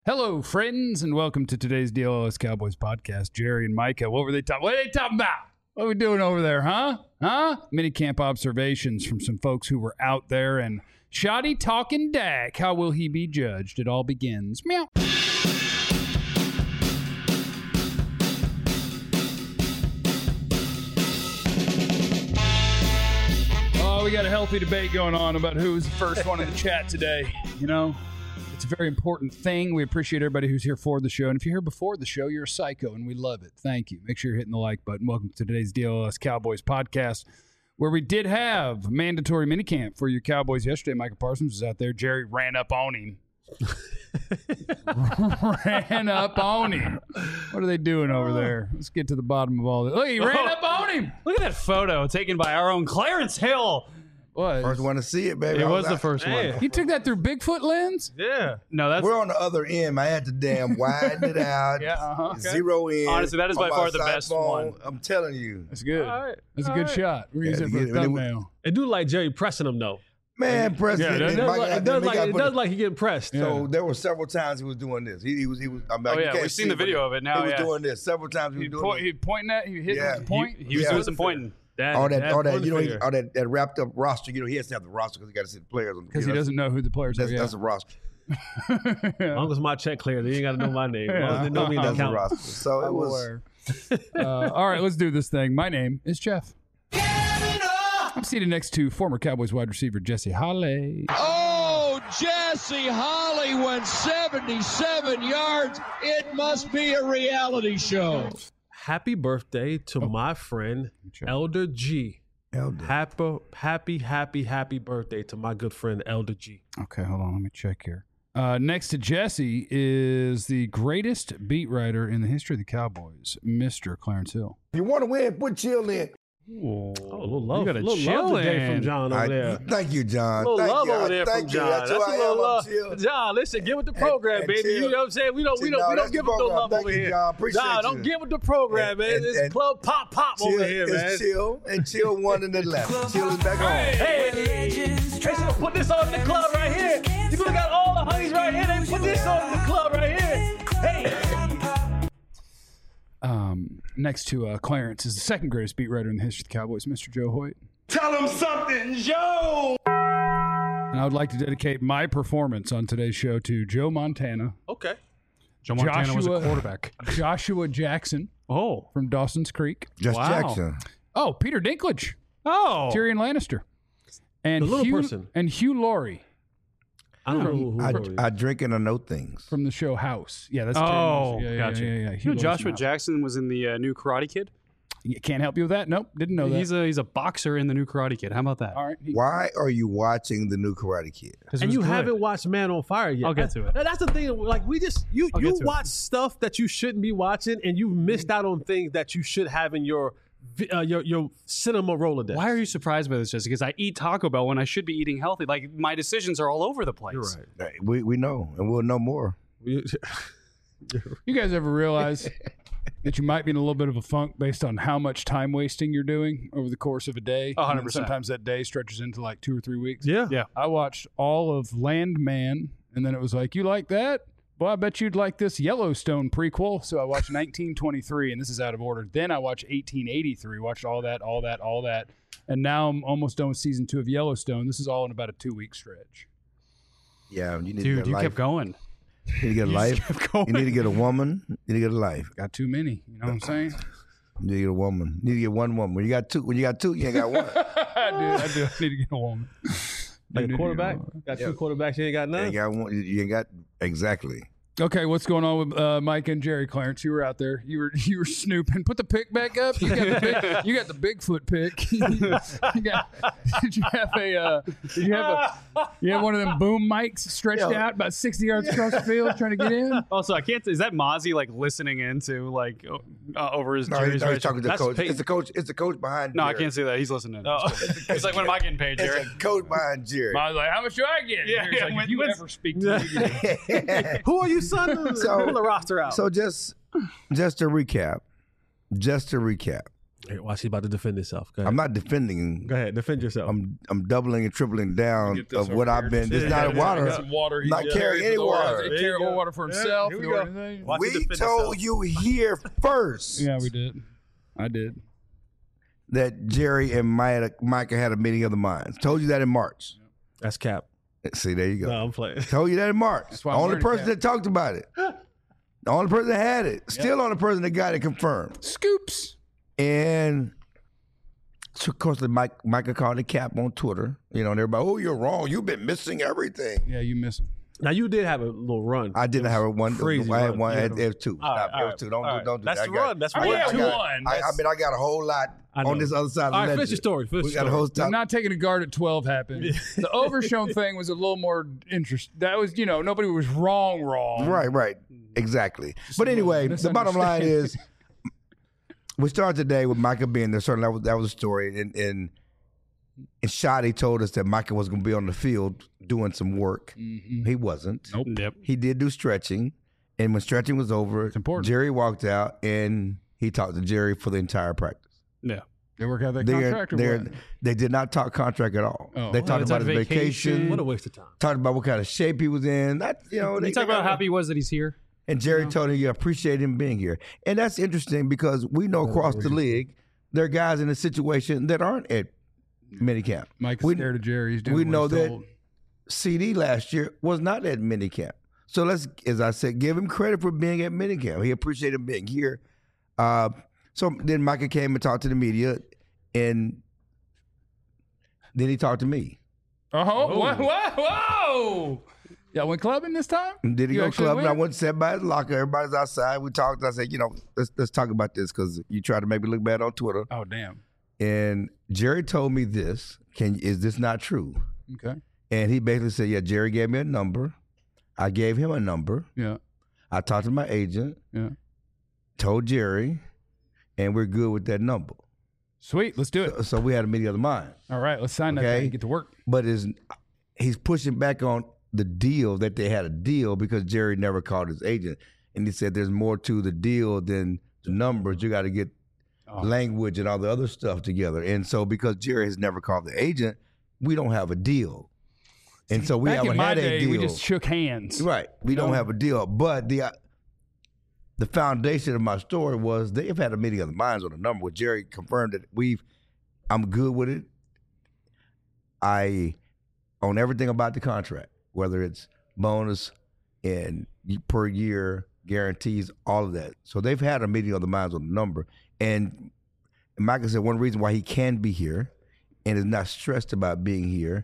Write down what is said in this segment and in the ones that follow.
Hello, friends, and welcome to today's DLS Cowboys podcast. Jerry and Micah, what are they talking about? What are we doing over there, huh? Mini camp observations from some folks who were out there, and shoddy talking Dak. How will he be judged? It all begins. Meow. Oh, we got a healthy debate going on about who's the first one in the chat today. You know, it's a very important thing. We appreciate everybody who's here for the show. And if you're here before the show, you're a psycho, and we love it. Thank you. Make sure you're hitting the like button. Welcome to today's DLS Cowboys podcast, where we did have mandatory minicamp for your Cowboys yesterday. Michael Parsons was out there. Jerry ran up on him. Ran up on him. What are they doing over there? Let's get to the bottom of all this. Look, he ran up on him. Look at that photo taken by our own Clarence Hill. What? First one to see it, baby. It was the first one. You took that through Bigfoot lens? Yeah. No, that's We're on the other end. I had to damn widen it out. Okay. Zero in. Honestly, that is by on my far the side best phone. one. I'm telling you. That's good. All right. That's a good shot. We're using it for the thumbnail. It do like Jerry pressing him though. Man, President. It does like he getting pressed. So there were several times he was doing this. He was. I'm like, Oh, you yeah, can't we've see seen the it, but video of it now, He was yeah. doing this several times. He was doing this. He pointing at, he hit Yeah. with the point. He was doing some pointing. all that, you know, all that wrapped up roster. You know, he has to have the roster because he got to see the players. Because he doesn't know who the players are. That's a roster. As long as my check clear, they ain't got to know my name. As long as they know me, That's that the count. roster. So it was. All right, let's do this thing. My name is Jeff. I'm seated next to former Cowboys wide receiver Jesse Holley. Oh, Jesse Holley went 77 yards. It must be a reality show. Happy birthday to my friend Elder G. Elder. Happy birthday to my good friend Elder G. Okay, hold on. Let me check here. Next to Jesse is the greatest beat writer in the history of the Cowboys, Mr. Clarence Hill. If you want to win, put chill in. Oh, a little love, gotta little chill love today in. from John over there. Thank you, John. A little Thank love you. over there Thank from you. John. That's who That's a I little am. love. I'm chill. John, listen, get with the program, and baby. chill. You know what I'm saying? We don't No, give that's him no the love program. over Thank you, here. John. Appreciate John, you. don't give with the program, man. It's club pop Chill over here, man. is chill, and chill one in the left. Chill is back home. Hey, so put this on in the club right here. You could have got all the honeys right here. They put this on in the club right here. Hey. Next to Clarence is the second greatest beat writer in the history of the Cowboys, Mr. Joe Hoyt. Tell him something, Joe! And I would like to dedicate my performance on today's show to Joe Montana, Okay. Joe Montana was a Joshua- quarterback. Joshua Jackson Oh. from Dawson's Creek. Just Wow. Jackson. Oh, Peter Dinklage, Oh. Tyrion Lannister, and The little Hugh, person. and Hugh Laurie I don't know who I drink and I know things. from the show House. Yeah, that's Oh, Tyrion Lannister. gotcha. Yeah. You know, Hugh Laurie's Joshua from House. Jackson was in the new Karate Kid. Yeah, can't help you with that. Nope, didn't know that. He's a boxer in the new Karate Kid. How about that? All right. Why are you watching the new Karate Kid? 'Cause it And was you good. haven't watched Man on Fire yet. I'll get to it. That's the thing. Like you I'll get to it. watch stuff that you shouldn't be watching, and you've missed out on things that you should have in your cinema Rolodex. Why are you surprised by this, Jesse? Because I eat Taco Bell when I should be eating healthy. Like, my decisions are all over the place. You're right. We know, and we'll know more. You guys ever realize that you might be in a little bit of a funk based on how much time wasting you're doing over the course of a day? 100%. And sometimes that day stretches into like 2 or 3 weeks. Yeah. Yeah. I watched all of Landman, and then it was like, you like that? Well, I bet you'd like this Yellowstone prequel. So I watched 1923, and this is out of order. Then I watched 1883, watched all that. And now I'm almost done with season 2 of Yellowstone. This is all in about a 2-week stretch. Yeah, you need to Dude, get a you life. kept going. You need to get a life. kept going. You need to get a woman. You need to get a life. Got too many. You know what I'm saying? You need to get a woman. You need to get one woman. When you got two, you ain't got one. I do. I need to get a woman. Like Need to a quarterback? get a woman. Got two quarterbacks, you ain't got You none? ain't got one. You ain't got exactly. Okay, what's going on with Mike and Jerry? Clarence, you were out there. You were snooping. Put the pick back up. You got the Bigfoot pick. Did you have one of them boom mics stretched out about 60 yards across the field trying to get in? Also, I can't. Is that Mozzie like listening into like over his? No, Jerry's he's right? talking to the That's coach. Peyton. It's the coach. It's the coach behind. No, I Jerry. can't say that. He's listening. He's like, when am I getting paid, Jerry? It's a coach behind Jerry. I was like, how much do I get? Yeah, Jerry's like, when- if you when's- ever speak to me, Who are you, son? So- Pull the roster out. So just to recap, Hey, watch, he's about to defend himself. Go ahead. I'm not defending. Go ahead, defend yourself. I'm doubling and tripling down Get this of what over I've here. been. It's not water. Some water. Not carrying any water. He carried more water for himself. Here we or go. anything. Watch him We defend told himself. you here first Yeah, we did. I did. that Jerry and Micah had a meeting of the minds. Told you that in March. That's cap. See, there you go. No, I'm playing. Told you that in March. That's The why I'm only wearing person a cap. that talked about it. The only person that had it. Still the only person that got it confirmed. Scoops. And so, of course, Micah called the cap on Twitter. You know, and everybody, oh, you're wrong. You've been missing everything. Yeah, you miss him. Now, you did have a little run. I didn't have one. crazy I had run. one. Yeah. It was two. All right, Stop. It was two. Don't do That's that. the run. That's I mean, one. yeah, Two. one. I mean, I got a whole lot I know. on this other side of the All right, ledger. finish your story. Finish We your got a story. whole I'm time. not taking a guard at 12 happened. The overshown thing was a little more interesting. That was, nobody was wrong. Right. Exactly. But anyway, the bottom line is we started today with Micah being there. Certainly that was a story. And Shotty told us that Micah was going to be on the field doing some work. Mm-hmm. He wasn't. Nope. Yep. He did do stretching. And when stretching was over, important. Jerry walked out and he talked to Jerry for the entire practice. Yeah. They work out that contract or what? They did not talk contract at all. Oh. They talked it's about on his vacation. What a waste of time. Talked about what kind of shape he was in. That He talked about how happy he was that he's here. And Jerry told him you appreciate him being here. And that's interesting because we know across the league there are guys in a situation that aren't at minicamp. Mike's We- scared of Jerry. He's doing we what know he's that told. CD last year was not at minicamp. So let's, as I said, give him credit for being at minicamp. He appreciated him being here. So then Micah came and talked to the media, and then he talked to me. Whoa. Y'all went clubbing this time? And did he You go actually clubbing? I went? went and sat by his locker. Everybody's outside. We talked. I said, let's talk about this because you tried to make me look bad on Twitter. Oh, damn. And Jerry told me this. Is this not true? Okay. And he basically said, yeah, Jerry gave me a number. I gave him a number. Yeah. I talked to my agent. Yeah. Told Jerry, and we're good with that number. Sweet. Let's do it. So we had a meeting of the mind. All right. Let's sign that Okay. thing and get to work. But he's pushing back on the deal that they had a deal because Jerry never called his agent. And he said there's more to the deal than the numbers. You got to get language and all the other stuff together. And so because Jerry has never called the agent, we don't have a deal. And so we Back haven't in my had a day, deal. we just shook hands. Right. We don't have a deal. But the foundation of my story was they've had a meeting of the minds on the number where Jerry confirmed that I'm good with it. I own everything about the contract, whether it's bonus and per year guarantees, all of that. So they've had a meeting of the minds on the number. And Michael said one reason why he can be here and is not stressed about being here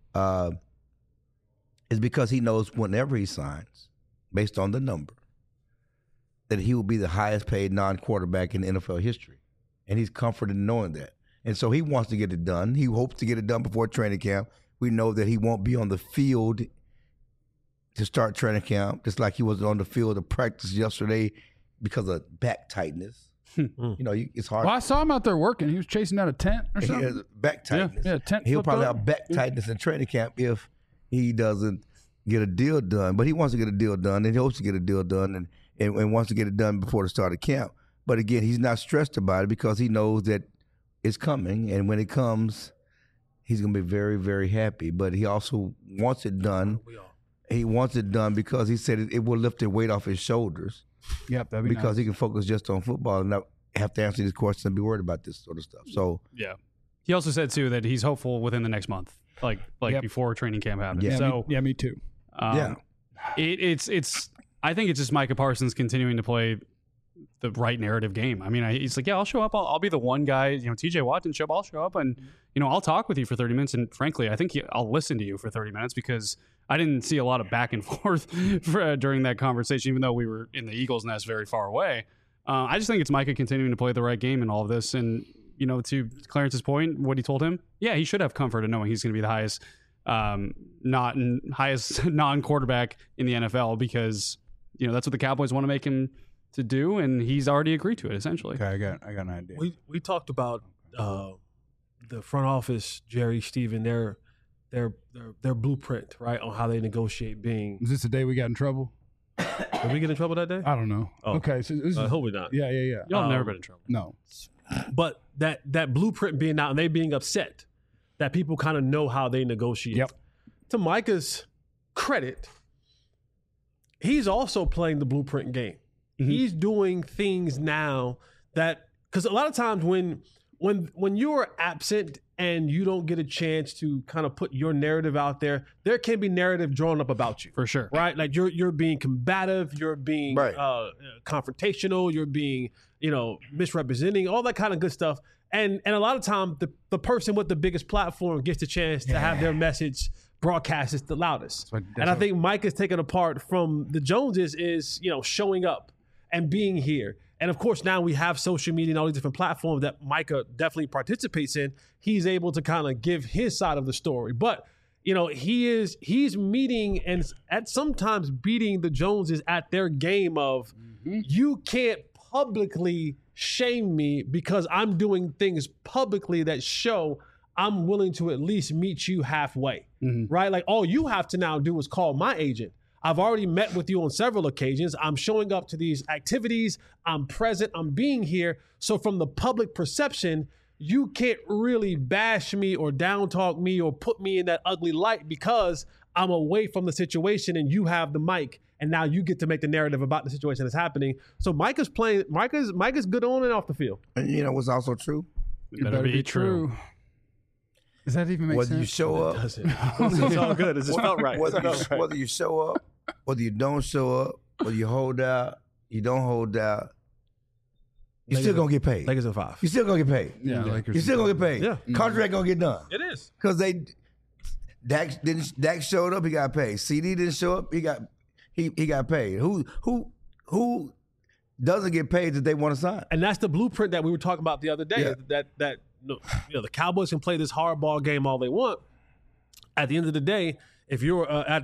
is because he knows whenever he signs, based on the number, that he will be the highest paid non-quarterback in NFL history. And he's comforted in knowing that. And so he wants to get it done. He hopes to get it done before training camp. We know that he won't be on the field to start training camp, just like he was on the field of practice yesterday because of back tightness. It's hard. Well, I saw him out there working. He was chasing down a tent or He something. has back tightness. Yeah, tent He'll flipped probably up. have back tightness in training camp if he doesn't get a deal done. But he wants to get a deal done, and he hopes to get a deal done, and wants to get it done before the start of camp. But again, he's not stressed about it because he knows that it's coming, and when it comes, he's going to be very, very happy. But he also wants it done. He wants it done because he said it will lift the weight off his shoulders. Yep, that'd be because nice. he can focus just on football and not have to answer these questions and be worried about this sort of stuff. So Yeah. He also said too that he's hopeful within the next month, like Yep. before training camp happens. Yeah. So me too. yeah. it's I think it's just Micah Parsons continuing to play the right narrative game. I mean, he's like, yeah, I'll show up. I'll be the one guy. TJ Watt didn't show up. I'll show up, and I'll talk with you for 30 minutes. And frankly, I think I'll listen to you for 30 minutes because I didn't see a lot of back and forth during that conversation, even though we were in the Eagles' nest very far away. I just think it's Micah continuing to play the right game in all of this. And, to Clarence's point, what he told him, yeah, he should have comfort in knowing he's going to be the highest non-quarterback in the NFL because, that's what the Cowboys want to make him to do. And he's already agreed to it, essentially. Okay, I got an idea. We talked about the front office, Jerry, Steven, their blueprint, right, on how they negotiate being. Was this the day we got in trouble? Did we get in trouble that day? I don't know. Oh. Okay, so this is, I hope we not. yeah. Y'all have never been in trouble. No. but that blueprint being out and they being upset, that people kind of know how they negotiate. Yep. To Micah's credit, he's also playing the blueprint game. Mm-hmm. He's doing things now that, because a lot of times when you're absent and you don't get a chance to kind of put your narrative out there can be narrative drawn up about you. For sure. Right? Like you're being combative, you're being Right. confrontational, you're being, misrepresenting, all that kind of good stuff. And a lot of time the person with the biggest platform gets the chance to have their message broadcast the loudest. And I think Mike is taken apart from the Joneses is, showing up and being here. And of course, now we have social media and all these different platforms that Micah definitely participates in. He's able to kind of give his side of the story. But, he's meeting and at sometimes beating the Joneses at their game of you can't publicly shame me because I'm doing things publicly that show I'm willing to at least meet you halfway, right? Like all you have to now do is call my agent. I've already met with you on several occasions. I'm showing up to these activities. I'm present. I'm being here. So from the public perception, you can't really bash me or down talk me or put me in that ugly light because I'm away from the situation and you have the mic. And now you get to make the narrative about the situation that's happening. So Micah's good on and off the field. And you know what's also true? It better be true. Does that even make Whether sense? you show up, It's all good. It just felt right. whether you show up, whether you don't show up, whether you hold out, you don't hold out, you're still gonna get paid. Lakers in 5. You're still gonna get paid. Yeah, Lakers. You're still gonna get paid. Yeah. Contract gonna get done. It is. Because Dak showed up, he got paid. CD didn't show up, he got paid. Who doesn't get paid that they want to sign? And that's the blueprint that we were talking about the other day. Yeah. That the Cowboys can play this hardball game all they want. At the end of the day, if you're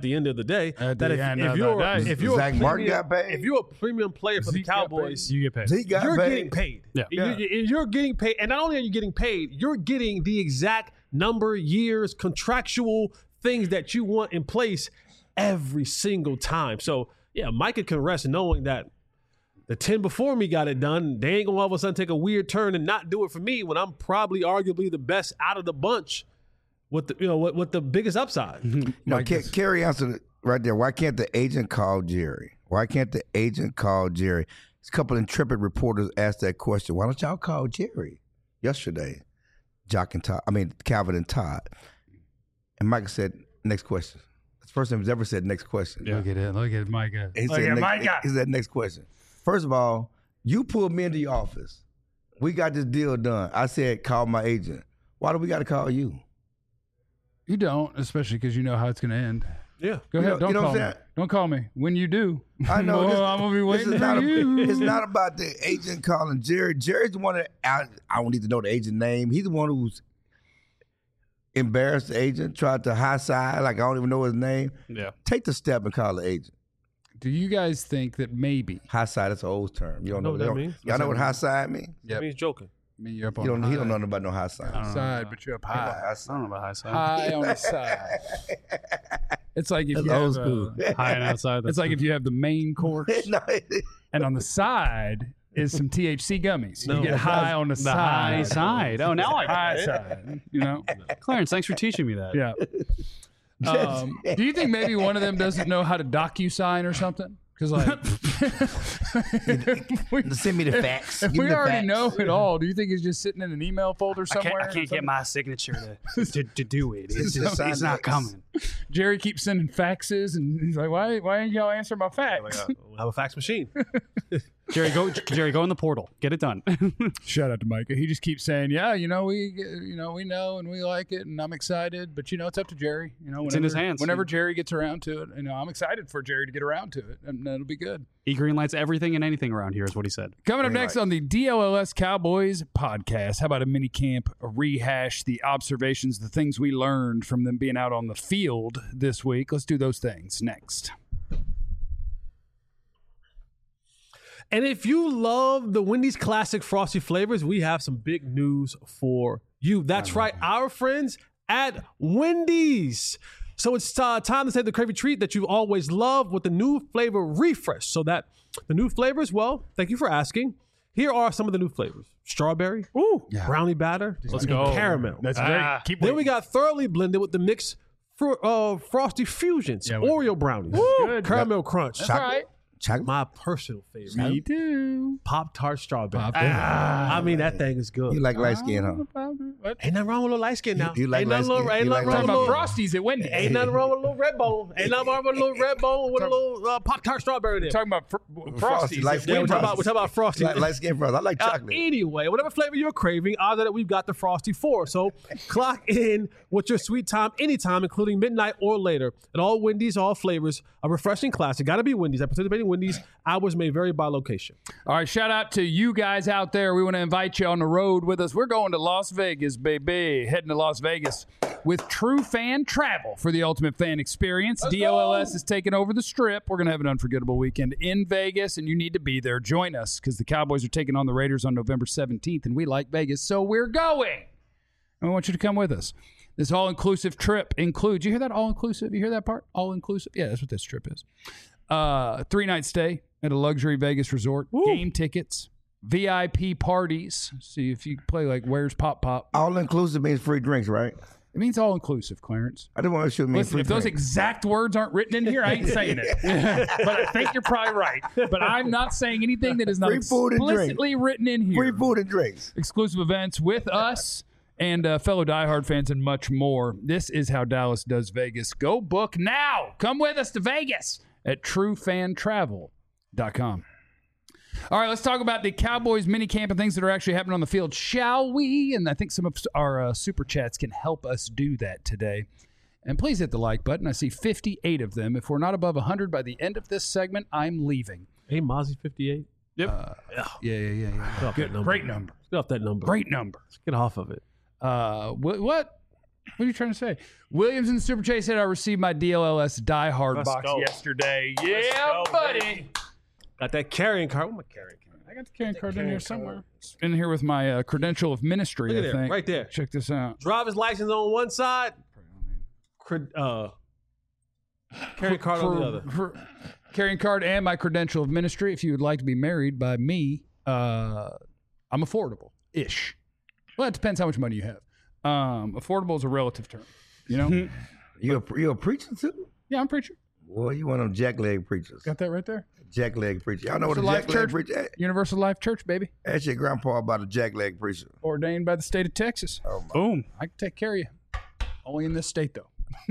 if you're Zach Martin got paid. if you're a premium player for the Zeke got Cowboys, You get paid. He got you're paid. getting paid. Yeah. You're getting paid. And not only are you getting paid, you're getting the exact number, years, contractual things that you want in place every single time. So, yeah, Micah can rest knowing that the 10 before me got it done. They ain't going to all of a sudden take a weird turn and not do it for me when I'm probably arguably the best out of the bunch with the, with the biggest upside. Kerry answered it right there. Why can't the agent call Jerry? Why can't the agent call Jerry? A couple intrepid reporters asked that question. Why don't y'all call Jerry? Yesterday, Calvin and Todd. And Micah said, next question. That's the first time he's ever said next question. Look at it, Micah. He said next question. First of all, you pulled me into your office. We got this deal done. I said, call my agent. Why do we got to call you? You don't, especially because you know how it's going to end. Yeah. Go ahead. Don't you know call what me. I'm saying? Don't call me. When you do, I know. I'm going to be waiting is for not you. It's not about the agent calling Jerry. Jerry's the one that, I don't need to know the agent name. He's the one who's embarrassed the agent, tried to high side, like I don't even know his name. Yeah. Take the step and call the agent. Do you guys think that maybe? High side, that's an old term. You don't know what that means? Y'all know what high side means? That means joking. I mean, you're up on He don't high. know nothing about no high side. Side, but you're up high. High I side. don't know about high side. High on the side. It's like if That's you old have school. High and outside. it's like if you have the main course No, and on the side is some THC gummies. No, You get high on the the high side. Oh, now I High get it. side. You know? Clarence, thanks for teaching me that. Yeah. Do you think maybe one of them doesn't know how to DocuSign or something? Because send me the facts. if Give me we the already facts. know it all, do you think it's just sitting in an email folder somewhere? I can't get my signature to do it. It's, Just sign it's not it. coming. Jerry keeps sending faxes, and he's like, "Why ain't y'all answer my fax?" We'll have a fax machine. Jerry, go in the portal. Get it done. Shout out to Micah. He just keeps saying, "Yeah, we know and we like it, and I'm excited." But it's up to Jerry. It's in his hands. Whenever Jerry gets around to it, I'm excited for Jerry to get around to it, and that'll be good. He greenlights everything and anything around here, is what he said. Coming up next on the DLLS Cowboys podcast, how about a mini camp, a rehash, the observations, the things we learned from them being out on the field this week. Let's do those things next. And if you love the Wendy's classic frosty flavors, we have some big news for you. That's right, our friends at Wendy's. So it's time to save the craving treat that you've always loved with the new flavor refresh. So that the new flavors, well, thank you for asking. Here are some of the new flavors: strawberry, brownie batter, Let's go. caramel. That's great. Keep Then we got thoroughly blended with the mix frosty fusions, Oreo brownies, caramel crunch. That's right. Chocolate. My personal favorite, Me too. Pop-Tart strawberry. Ah. I mean, that thing is good. You like light skin, huh? What? Ain't nothing wrong with a little light skin now. You like ain't nothing light skin? ain't You nothing like wrong Talking with a about little. Frosties at Wendy's. Ain't nothing wrong with a little red bone. Ain't nothing wrong with a little red bone with a little Pop-Tart strawberry there. Talking about Frosties. Like at skin Yeah, we're Wendy's. talking about Frosty. Light skin frost. I like chocolate. Anyway, whatever flavor you're craving, odds are that we've got the Frosty for. So clock in with your sweet time anytime, including midnight or later. At all Wendy's, all flavors, a refreshing classic. Got to be Wendy's. I participate in Wendy's. Hours may vary by location. All right, shout out to you guys out there. We want to invite you on the road with us. We're going to Las Vegas, baby. Heading to Las Vegas with True Fan Travel for the ultimate fan experience. DLLS is taking over the Strip. We're going to have an unforgettable weekend in Vegas, and you need to be there. Join us because the Cowboys are taking on the Raiders on November 17th, and we like Vegas, so we're going. And we want you to come with us. This all-inclusive trip includes, you hear that all-inclusive? You hear that part? All-inclusive? Yeah, that's what this trip is. 3-night stay at a luxury Vegas resort, game tickets, VIP parties. See if you play like Where's Pop Pop. All inclusive means free drinks, right? It means all inclusive, Clarence. I didn't want to shoot me Listen, free if those drinks. exact words aren't written in here, I ain't saying it. But I think you're probably right. But I'm not saying anything that is not Free food and drink. explicitly written in here. Free food and drinks. Exclusive events with us and fellow diehard fans and much more. This is how Dallas does Vegas. Go book now. Come with us to Vegas at truefantravel.com. All right, let's talk about the Cowboys mini camp and things that are actually happening on the field, shall we? And I think some of our super chats can help us do that today. And please hit the like button. I see 58 of them. If we're not above 100 by the end of this segment, I'm leaving. Hey, Mozzie 58. Yep. Yeah. Get off that number. Great number. Get off that number. Great number. Let's get off of it. What are you trying to say? Williams in the Super Chase said I received my DLLS Die Hard Let's box go. yesterday. Yeah, go, buddy. baby. Got that carrying card. Where's my carrying card? I got the carrying card in here somewhere. It's in here with my credential of ministry, Look at I there, think. right there. Check this out. Driver's license on one side. Carrying card on the other. Carrying card and my credential of ministry. If you would like to be married by me, I'm affordable-ish. Well, it depends how much money you have. Affordable is a relative term, you know? You a preacher too? Yeah, I'm a preacher. Boy, you one of them jackleg preachers. Got that right there? Jackleg preacher. Y'all know what a Life jackleg Church, preacher? Universal Life Church, baby. Ask your grandpa about a jackleg preacher. Ordained by the state of Texas. Oh my. Boom. I can take care of you. Only in this state, though.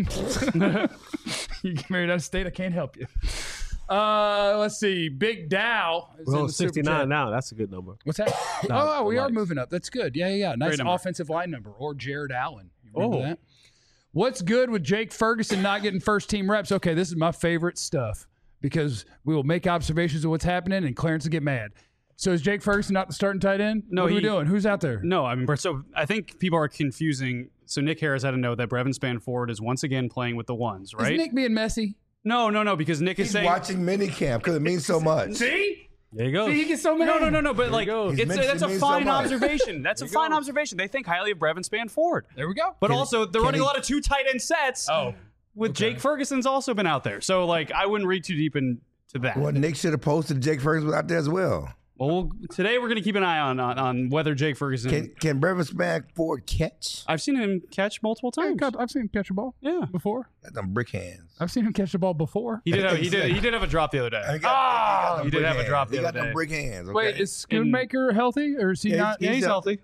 You get married out of state, I can't help you. Let's see. Big Dow is in Well, the Super 69 Chat. now. That's a good number. What's that? We are moving up. That's good. Yeah. Nice number. offensive line number. Or Jared Allen. You remember Oh. that? What's good with Jake Ferguson not getting first team reps? Okay, this is my favorite stuff because we will make observations of what's happening and Clarence will get mad. So is Jake Ferguson not the starting tight end? No, what are we he- doing? Who's out there? No, I mean, so I think people are confusing. So Nick Harris had to know that Brevin Spanford is once again playing with the ones, right? Is Nick being messy? No, because Nick is He's saying watching minicamp because it means so much. See? There you go. See, he gets so mad. No, but like He's it's mentioned that's a me so fine much. observation. That's a fine observation. They think highly of Brevin Spanford. There we go. But also they're running he- a lot of two tight end sets. With Jake Ferguson's also been out there. So like I wouldn't read too deep into that. Well, Nick should have posted Jake Ferguson was out there as well. Well, today we're going to keep an eye on whether Jake Ferguson. Can Brevin Spanford catch? I've seen him catch multiple times. I've seen him catch a ball. Yeah. Before. Got them brick hands. I've seen him catch the ball before. He did have a drop the other day. He got them he did brick have a hands. drop the He got other them day. brick hands. Okay? Wait, is Schoonmaker healthy or is he Yeah, not? He's healthy.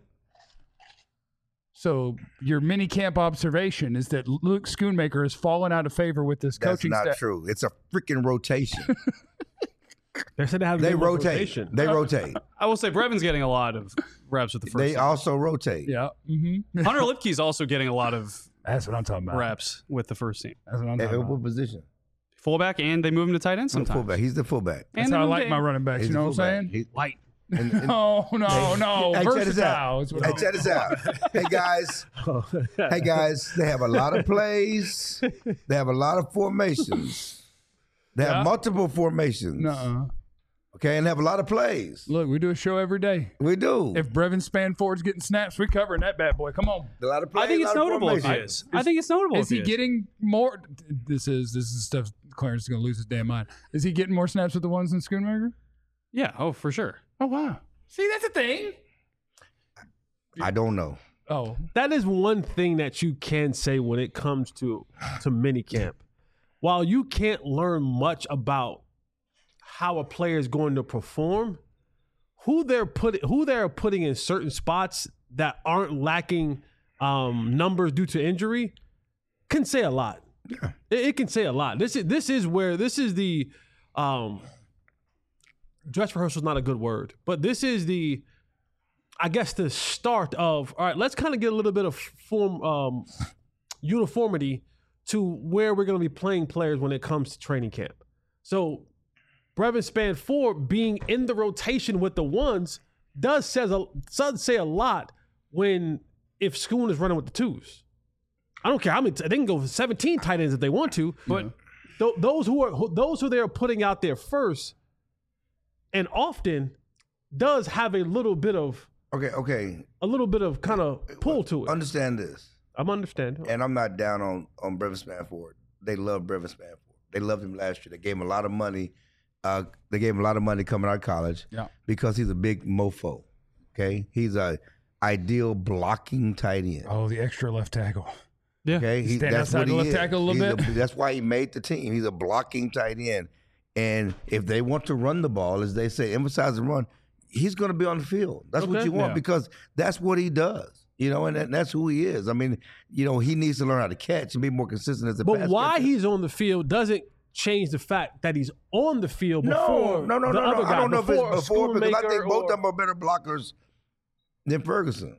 So your mini camp observation is that Luke Schoonmaker has fallen out of favor with this That's coaching not staff. true. It's a freaking rotation. They said they have They good rotate. rotation. They rotate. I will say Brevin's getting a lot of reps with the first They team. also rotate. Yeah. Mm-hmm. Hunter Lipke's also getting a lot of That's what I'm talking about. reps with the first team. That's what I'm At talking about. what position? Fullback, and they move him to tight end sometimes. Fullback. He's the fullback. That's And they how I moved like to- my running backs. He's You the know what I'm fullback. saying? Light. No. Hey, check this Versatile. out. is what Hey, I'm- check this out. Hey guys. Hey guys. They have a lot of plays. They have a lot of formations. They have Yeah. multiple formations. Nuh-uh. Okay, and have a lot of plays. Look, we do a show every day. We do. If Brevin Spanford's getting snaps, we covering that bad boy. Come on. a lot of plays. I think it's a lot of notable if he formations. is. I think it's notable Is if he getting more? This is stuff. Clarence is going to lose his damn mind. Is he getting more snaps with the ones than Schoonmaker? Yeah, oh, for sure. Oh wow. See, that's a thing. I don't know. Oh, That is one thing that you can say when it comes to minicamp. While you can't learn much about how a player is going to perform, who they're putting in certain spots that aren't lacking numbers due to injury can say a lot. Yeah. It can say a lot. This is the dress rehearsal is not a good word, but this is the, I guess, the start of, all right, let's kind of get a little bit of uniformity to where we're going to be playing players when it comes to training camp. So Brevin Spann-Ford being in the rotation with the ones does say a lot if Schoon is running with the twos. I don't care. I mean, they can go for 17 tight ends if they want to, but those who they are putting out there first, and often does have a little bit of kind of pull to it. Understand this. I'm understanding. And I'm not down on Brevin Spann-Ford. They love Brevin Spann-Ford. They loved him last year. They gave him a lot of money. They gave him a lot of money coming out of college because he's a big mofo. Okay? He's a ideal blocking tight end. oh, the extra left tackle. Yeah. Okay? Stand That's outside what the he left is. tackle a little bit. That's why he made the team. He's a blocking tight end. And if they want to run the ball, as they say, emphasize the run, he's going to be on the field. That's what you want because that's what he does. And that's who he is. I mean, he needs to learn how to catch and be more consistent as a pass But why catcher. he's on the field doesn't change the fact that he's on the field before No. the other guy. I don't know if it's before because I think both of or- them are better blockers than Ferguson.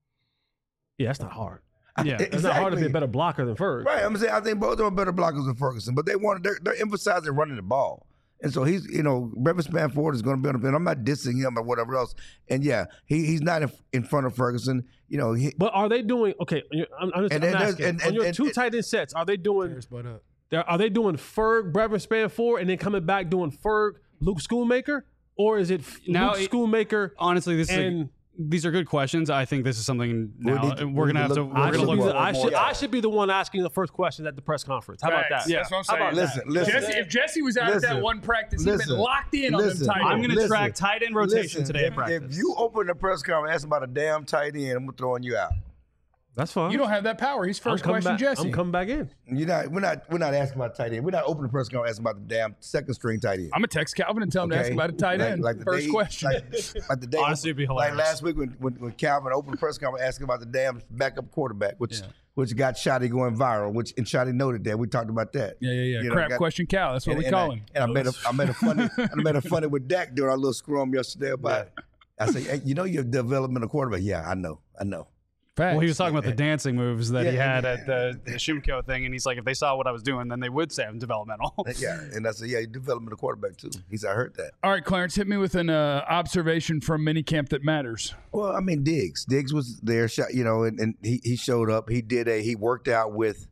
Yeah, that's not hard. Yeah. It's not hard to be a better blocker than Ferg. Right. I'm saying I think both of them are better blockers than Ferguson, but they're emphasizing running the ball. And so he's, Brevin Spann-Ford is going to be on the field. I'm not dissing him or whatever else. And yeah, he's not in front of Ferguson. But are they doing okay? I'm asking. On your two tight end sets, are they doing? Are they doing Ferg, Brevin Spann-Ford, and then coming back doing Ferg, Luke Schoonmaker, or is it Luke Schoonmaker? Honestly, these are good questions. I think this is something we're gonna have to. We're gonna look. I should be the one asking the first questions at the press conference. How about that? Yeah, that's what I'm saying. Listen. If Jesse was out at that one practice, he'd been locked in on them tight ends. I'm going to track tight end rotation today at practice. If you open the press conference asking about a damn tight end, I'm throwing you out. That's fine. You don't have that power. He's first question, Jesse. I'm coming back in. We're not asking about tight end. We're not opening the press conference asking about the damn second string tight end. I'm gonna text Calvin and tell him to ask about a tight end. First question. Like the day, Honestly, it'd be hilarious. Like last week when Calvin opened the press conference asking about the damn backup quarterback, which got Shotty going viral, and Shotty noted that. We talked about that. Yeah. Crap question, Cal. That's what we call him. And I made a funny with Dak during our little scrum yesterday about. I said, hey, your developmental quarterback. Yeah, I know. Facts. Well, he was talking about the dancing moves that he had at the Shimko thing, and he's like, if they saw what I was doing, then they would say I'm developmental. Yeah, and I said, yeah, you're developmental quarterback too. He said, I heard that. All right, Clarence, hit me with an observation from minicamp that matters. Well, I mean, Diggs was there, and he showed up. He worked out with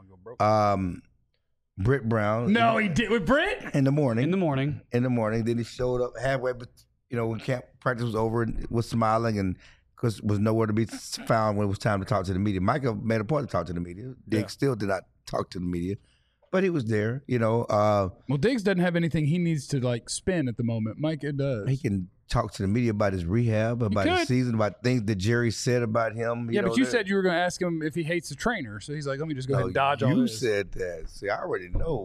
Britt Brown. No, he did with Britt in the morning. In the morning. Then he showed up halfway, but when camp practice was over, and was smiling and. Because was nowhere to be found when it was time to talk to the media. Micah made a point to talk to the media. Diggs still did not talk to the media, but he was there. Well, Diggs doesn't have anything he needs to spin at the moment. Micah does. He can talk to the media about his rehab, about his season, about things that Jerry said about him. But you said you were going to ask him if he hates the trainer, so he's like, "Let me just go ahead and dodge all this." You said that. See, I already know.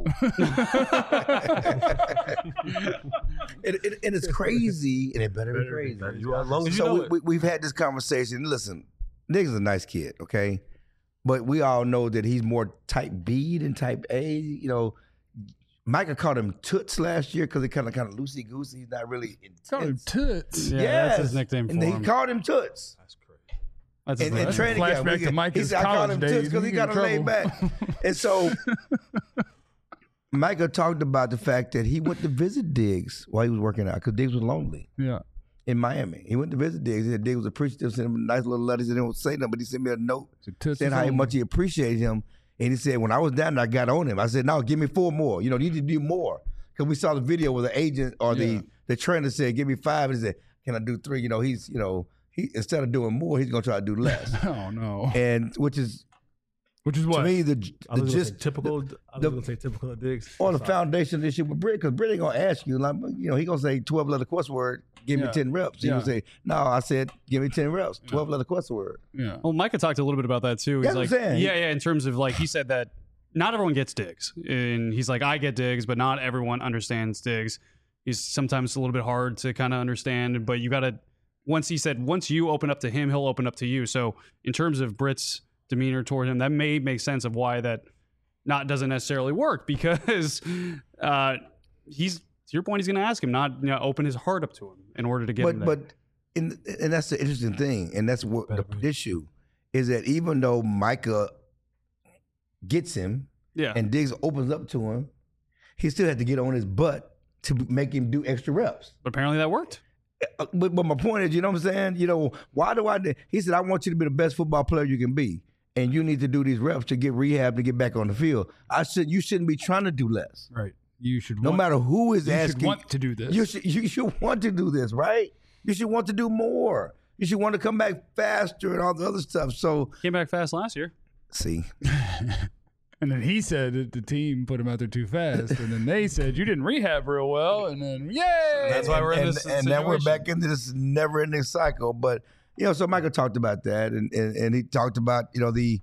and it's crazy, and it better be crazy. As long as you know it. We've had this conversation. Listen, Diggs is a nice kid, okay? But we all know that he's more type B than type A. Micah called him Toots last year because he kind of loosey-goosey. He's not really intense. Called him Toots. Yeah, that's his nickname for and him. he called him Toots. That's crazy. And training camp, flashback to Micah's I called him college days. Toots because he got him laid back. And so Micah talked about the fact that he went to visit Diggs while he was working out because Diggs was lonely. Yeah. In Miami. He went to visit Diggs. He said Diggs was appreciative, sent him nice little letters. He didn't say nothing, but he sent me a note saying how much he appreciated him. And he said, when I was down there, I got on him. I said, no, give me 4 more. You need to do more. Because we saw the video where the agent or the trainer said, give me 5. And he said, can I do 3? He instead of doing more, he's going to try to do less. Oh, no. And which is Which is what? To me, I was just typical. I was the- going to say typical of Diggs. on the foundation of this shit with Britt, because Britt ain't gonna ask you, like, he gonna say 12 letter quest word, give me 10 reps. He gonna say, no, I said, give me 10 reps, 12 letter quest word. Yeah. Well, Micah talked a little bit about that too. He's That's like, what I'm saying. yeah. In terms of like, he said that not everyone gets Diggs, and he's like, I get Diggs, but not everyone understands Diggs. He's sometimes a little bit hard to kind of understand, but you got to. Once you open up to him, he'll open up to you. So in terms of Britt's demeanor toward him, that may make sense of why that doesn't necessarily work, because he's, to your point, he's going to ask him, not open his heart up to him in order to get him there. And that's the interesting thing, and that's what the issue is, that even though Micah gets him and Diggs opens up to him, he still had to get on his butt to make him do extra reps. But apparently that worked. But my point is, you know what I'm saying? Why do I? He said, I want you to be the best football player you can be, and you need to do these reps to get rehab to get back on the field. I said, you shouldn't be trying to do less. Right. You should. No matter who is you asking, should want to do this. You should want to do this, right? You should want to do more. You should want to come back faster and all the other stuff. So Came back fast last year. see, And then he said that the team put him out there too fast, and then they said you didn't rehab real well, and then yay! That's why we're in this and then we're situation. back into this never-ending cycle. But so Michael talked about that, and he talked about the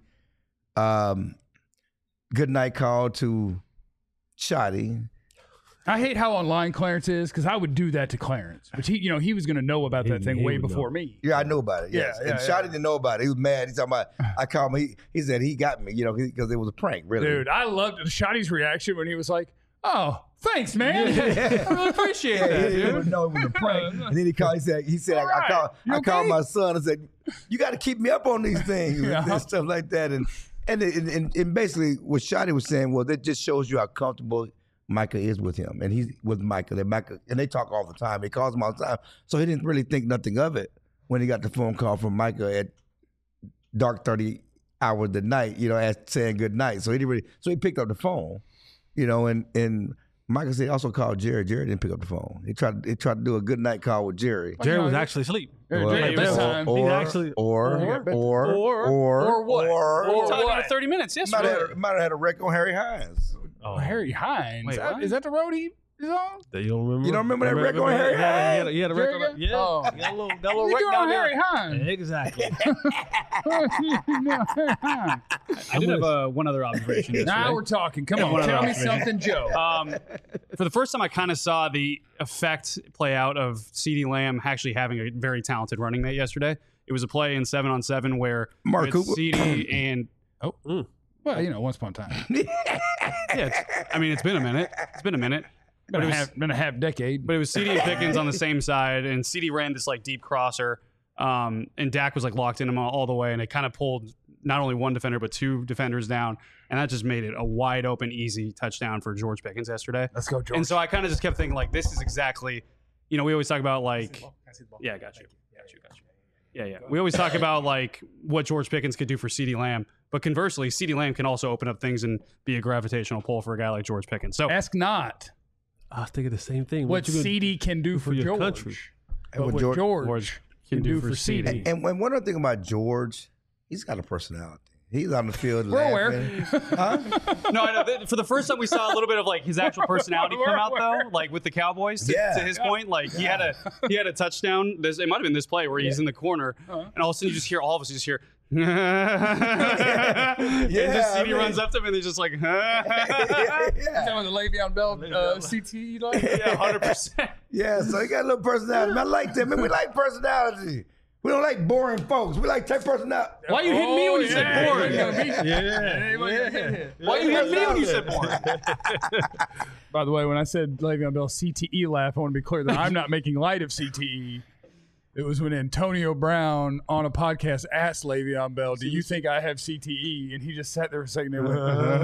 good night call to Shotty. I hate how online Clarence is, because I would do that to Clarence, but he was going to know about that thing he way would before know. me. Yeah, I know about it. Yes, Yeah, and yeah, Shotty didn't know about it. He was mad. He's talking about. I called him. He said he got me. Because it was a prank. Really, Dude, I loved Shotty's reaction when he was like, "Oh, thanks, man. I really appreciate that, He dude. didn't know it was a prank. And then he called. He said, All right. I You called okay? my son and said, you got to keep me up on these things and stuff like that. And basically, what Shotty was saying was, that just shows you how comfortable Micah is with him, and he's with Micah. And they talk all the time. He calls him all the time, so he didn't really think nothing of it when he got the phone call from Micah at dark 30 hours of the night. Saying good night. So he picked up the phone. And Micah said he also called Jerry. Jerry didn't pick up the phone. He tried to do a good night call with Jerry. Jerry was actually asleep. Jerry, this time. He's actually or what? We talked what? about 30 minutes might yesterday. have had a wreck on Harry Hines. Oh, Harry Hines. Wait, what? Is that the road he is on? You don't remember? You don't remember that wreck on Harry Hines? He had a Jerry wreck on. got- Yeah, Oh. he got a little What wreck you doing down on there. Harry Hines? Exactly. I did have one other observation yesterday. Now we're talking. Come One on, other tell me observation. something, Joe. For the first time, I kind of saw the effect play out of CeeDee Lamb actually having a very talented running mate yesterday. It was a play in 7-on-7 where Mark with Cooper. CeeDee and Well, once upon a time. it's been a minute. It's been a minute. Been a half decade. But it was CeeDee and Pickens on the same side, and CeeDee ran this like deep crosser, and Dak was like locked in him all the way, and it kind of pulled not only one defender but two defenders down, and that just made it a wide open, easy touchdown for George Pickens yesterday. Let's go, George. And so I kind of just kept thinking like, this is exactly, we always talk about like, yeah, got you. Yeah. We always talk about like what George Pickens could do for CeeDee Lamb, but conversely, CeeDee Lamb can also open up things and be a gravitational pull for a guy like George Pickens. So Ask not I was thinking the same thing. what you gonna- CD can do for your George, country? but what what George- George can do for CD. And one other thing about George, he's got a personality. He's on the field We're aware. laughing. no, I know. For the first time, we saw a little bit of like his actual personality come out though, like with the Cowboys. To his point, like he had a touchdown. It might have been this play where he's in the corner, and all of a sudden you just hear all of us just hear. and just CD runs up to him and he's just like, Is that when the Le'Veon Bell CTE like? yeah, 100%. Yeah, so he got a little personality. I like that. Man, we like personality. We don't like boring folks. We like type personality. Why you hitting me when you said boring? Yeah. Why you hitting me when you said boring? By the way, when I said Le'Veon Bell CTE laugh, I want to be clear that I'm not making light of CTE. It was when Antonio Brown on a podcast asked Le'Veon Bell, "Do you think I have CTE?" And he just sat there for a second. And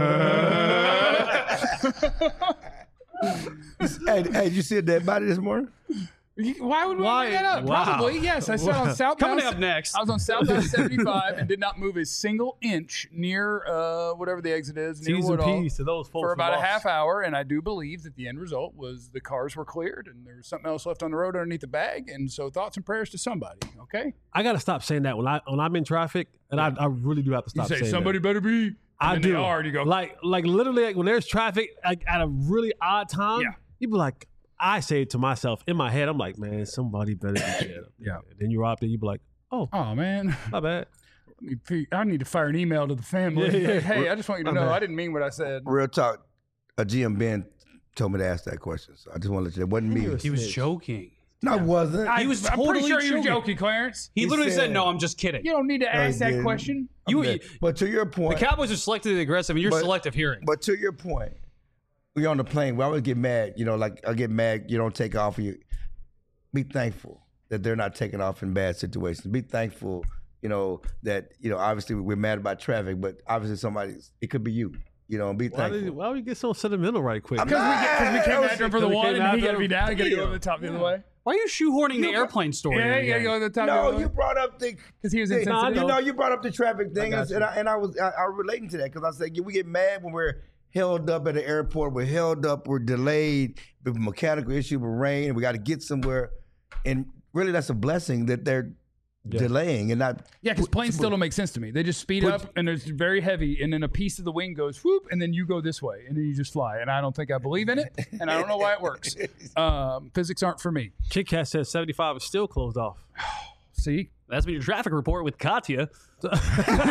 Hey, did you see a dead body this morning? Why would we bring that up? Wow. Probably, yes. I sat on southbound. Coming up next. I was on southbound 75 and did not move a single inch near whatever the exit is, near T's and Woodall, P's to those folks for about a who lost. half hour. And I do believe that the end result was the cars were cleared and there was something else left on the road underneath the bag. And so thoughts and prayers to somebody. Okay. I gotta stop saying that when I'm in traffic, and I really do have to You stop say saying somebody better be I then do. they are, and you go, like literally like when there's traffic like, at a really odd time. Yeah. You be like, I say it to myself in my head. I'm like, man, somebody better be dead. Yeah. And then you're out there. You be like, oh, oh man, my bad. I need to fire an email to the family. Yeah. Like, hey, I just want you to know I didn't mean what I said. Real talk. A GM Ben told me to ask that question, so I just want to let you know. It wasn't me. He was joking. No, it wasn't. He was I'm pretty totally sure you were joking. joking, Clarence. He literally said, said- "No, I'm just kidding." You don't need to No, he ask that didn't. question. But to your The point, Cowboys are selectively aggressive, and you're But- selective hearing. But to your point, we on the plane. We always get mad. You know, like I get mad. You don't take off. You be thankful that they're not taking off in bad situations. Be thankful. You know that obviously we're mad about traffic, but obviously it could be you. You know, and be thankful. Why we get so sentimental right quick? Because we came after him for the we one, came and he after got to be him. down. You got to go to the top the other way. Why are you shoehorning the airplane story? Yeah, in you got to again? go to the top the No, other way. you brought up the Because he was thing. insensitive. No, I know. You brought up the traffic thing, got and I was relating to that because I said we get mad when we're held up at the airport. We're held up. We're delayed with a mechanical issue with rain, and we got to get somewhere. And really, that's a blessing that they're delaying and not. Yeah, because planes still don't make sense to me. They just speed up and it's very heavy, and then a piece of the wing goes whoop, and then you go this way, and then you just fly. And I don't think I believe in it, and I don't know why it works. Physics aren't for me. Kit Kat says 75 is still closed off. See, That's been your traffic report with Katya. That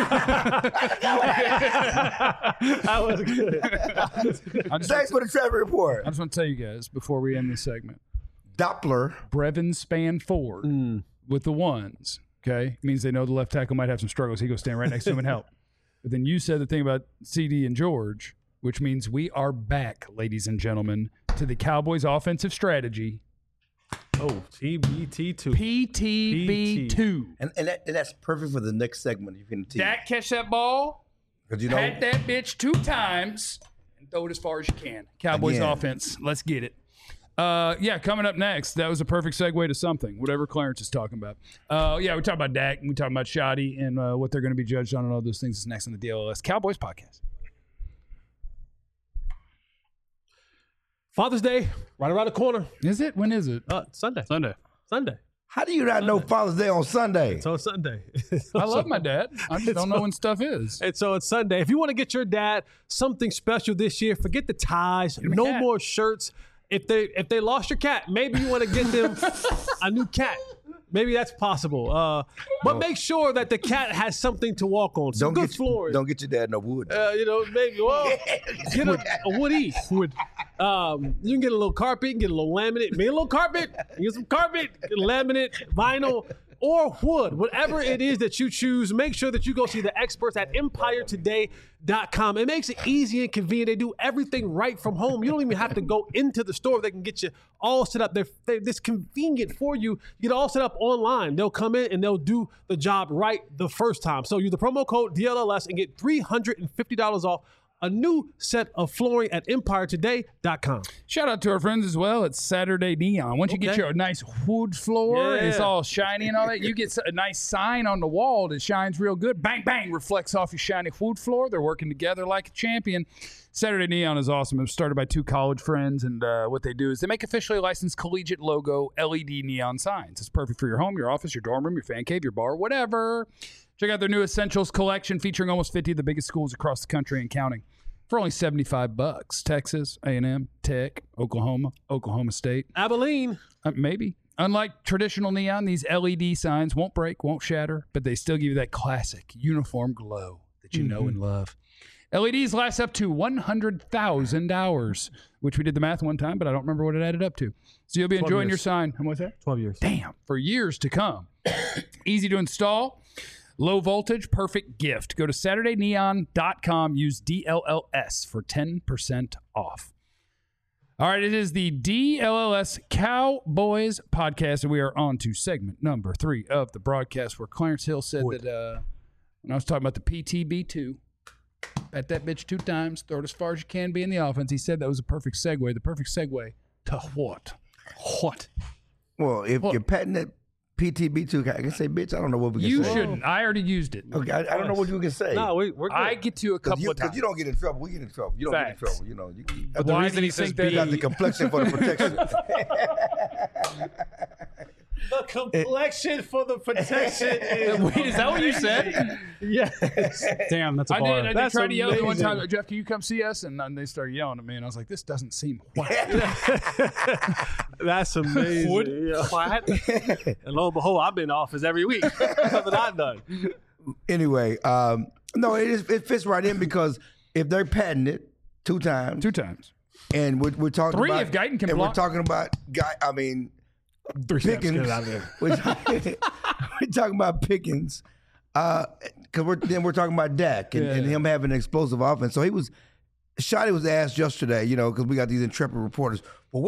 was good. Thanks for the traffic report. I just want to tell you guys before we end this segment, Doppler. Brevin span forward with the ones. Okay, means they know the left tackle might have some struggles. He goes stand right next to him and help. But then you said the thing about CD and George, which means we are back, ladies and gentlemen, to the Cowboys' offensive strategy. Oh, TBT2. PTB2. And that's perfect for the next segment. You can teach. Dak catch that ball, Because pat that bitch 2 times, and throw it as far as you can. Cowboys Again. offense. Let's get it. Coming up next, that was a perfect segue to something, whatever Clarence is talking about. We talk about Dak, we talk about Shoddy, and what they're going to be judged on and all those things is next on the DLLS Cowboys podcast. Father's Day, right around the corner. Is it? When is it? Sunday. Sunday. How do you not know Father's Day on Sunday? It's on Sunday. I love my dad. I just don't know when stuff is. And so it's Sunday. If you want to get your dad something special this year, forget the ties. him a No cat. more shirts. If they lost your cat, maybe you want to get them a new cat. Maybe that's possible. But make sure that the cat has something to walk on. Some good flooring. Don't get your dad no wood. Maybe. Well, get a wood. You can get a little carpet, get a little laminate. Make a little carpet. Get some carpet, laminate, vinyl, or wood. Whatever it is that you choose, make sure that you go see the experts at EmpireToday.com. It makes it easy and convenient. They do everything right from home. You don't even have to go into the store. They can get you all set up. They're this convenient for you. You get it all set up online. They'll come in and they'll do the job right the first time. So use the promo code DLLS and get $350 off a new set of flooring at EmpireToday.com. Shout out to our friends as well at Saturday Neon. Once you get your nice wood floor, Yeah. it's all shiny and all that, you get a nice sign on the wall that shines real good. Bang, bang, reflects off your shiny wood floor. They're working together like a champion. Saturday Neon is awesome. It was started by 2 college friends, and what they do is they make officially licensed collegiate logo LED neon signs. It's perfect for your home, your office, your dorm room, your fan cave, your bar, whatever. Check out their new Essentials collection featuring almost 50 of the biggest schools across the country and counting for only $75. Texas, A&M, Tech, Oklahoma State. Abilene. Maybe. Unlike traditional neon, these LED signs won't break, won't shatter, but they still give you that classic uniform glow that you know and love. LEDs last up to 100,000 hours, which we did the math one time, but I don't remember what it added up to. So you'll be enjoying your sign. How much that? 12 years. Damn, for years to come. Easy to install. Low voltage, perfect gift. Go to SaturdayNeon.com. Use DLLS for 10% off. All right, it is the DLLS Cowboys podcast, and we are on to segment number 3 of the broadcast, where Clarence Hill said that when I was talking about the PTB2, pat that bitch 2 times, throw it as far as you can be in the offense, he said that was a perfect segue. The perfect segue to what? What? Well, if you're patting that PTB2, I can say, bitch, I don't know what we can You say. shouldn't. I already used it. Okay, I don't know what you can say. No, we're good. I get to a couple of Because times. you don't get in trouble. We get in trouble. You don't Facts. get in trouble. You know, But the Why reason do he you says think that- you got the complexion for the protection. The complexion for the protection is. Wait, is that what you said? Yes. Damn, that's a I bar. did That's try to yell at me one amazing. time, Jeff, can you come see us? And then they started yelling at me, and I was like, this doesn't seem white. That's amazing. Wood yeah. And lo and behold, I've been in office every week. Something I've done. Anyway, no, it fits right in because if they're patenting it 2 times, 2 times. and we're talking 3 about, if Guyton can and block. we're talking about Three steps, Pickens. get it out of there. We're talking about Pickens, because we're talking about Dak and him having an explosive offense. So Shotty was asked yesterday, because we got these intrepid reporters. Well,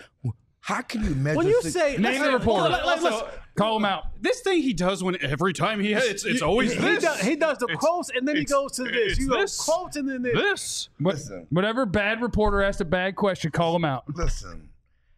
how can you measure? When you say Name the reporter. Call him out. This thing he does when every time he hits, it's always this. He does the quotes and then he goes to this. it's You go this. quotes and then this. This. Listen. Whatever bad reporter asked a bad question, call him out. Listen,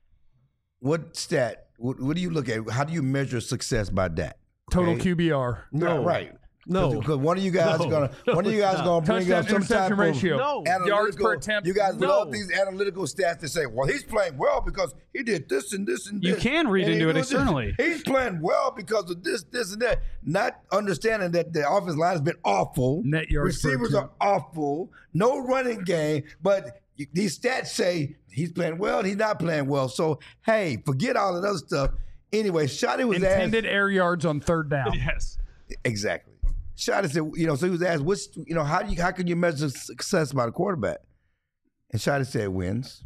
what stat? What do you look at? How do you measure success by Dak? Total Okay? QBR. No, right. No. Because one of you guys gonna bring up Touchdown some type interception of ratio. No. Yards per analytical. attempt. You guys No. love these analytical stats to say, well, he's playing well because he did this and this and this. You can read and he into it did this. externally. He's playing well because of this, and that. Not understanding that the offensive line has been awful. Net yards per Receivers are attempt. awful. No running game. But these stats say he's playing well, he's not playing well. So, hey, forget all of that other stuff. Anyway, Shotty was Intended asked. air yards on 3rd down. Yes. Exactly. Shotty said, so he was asked, how can you measure success by the quarterback? And Shotty said, wins.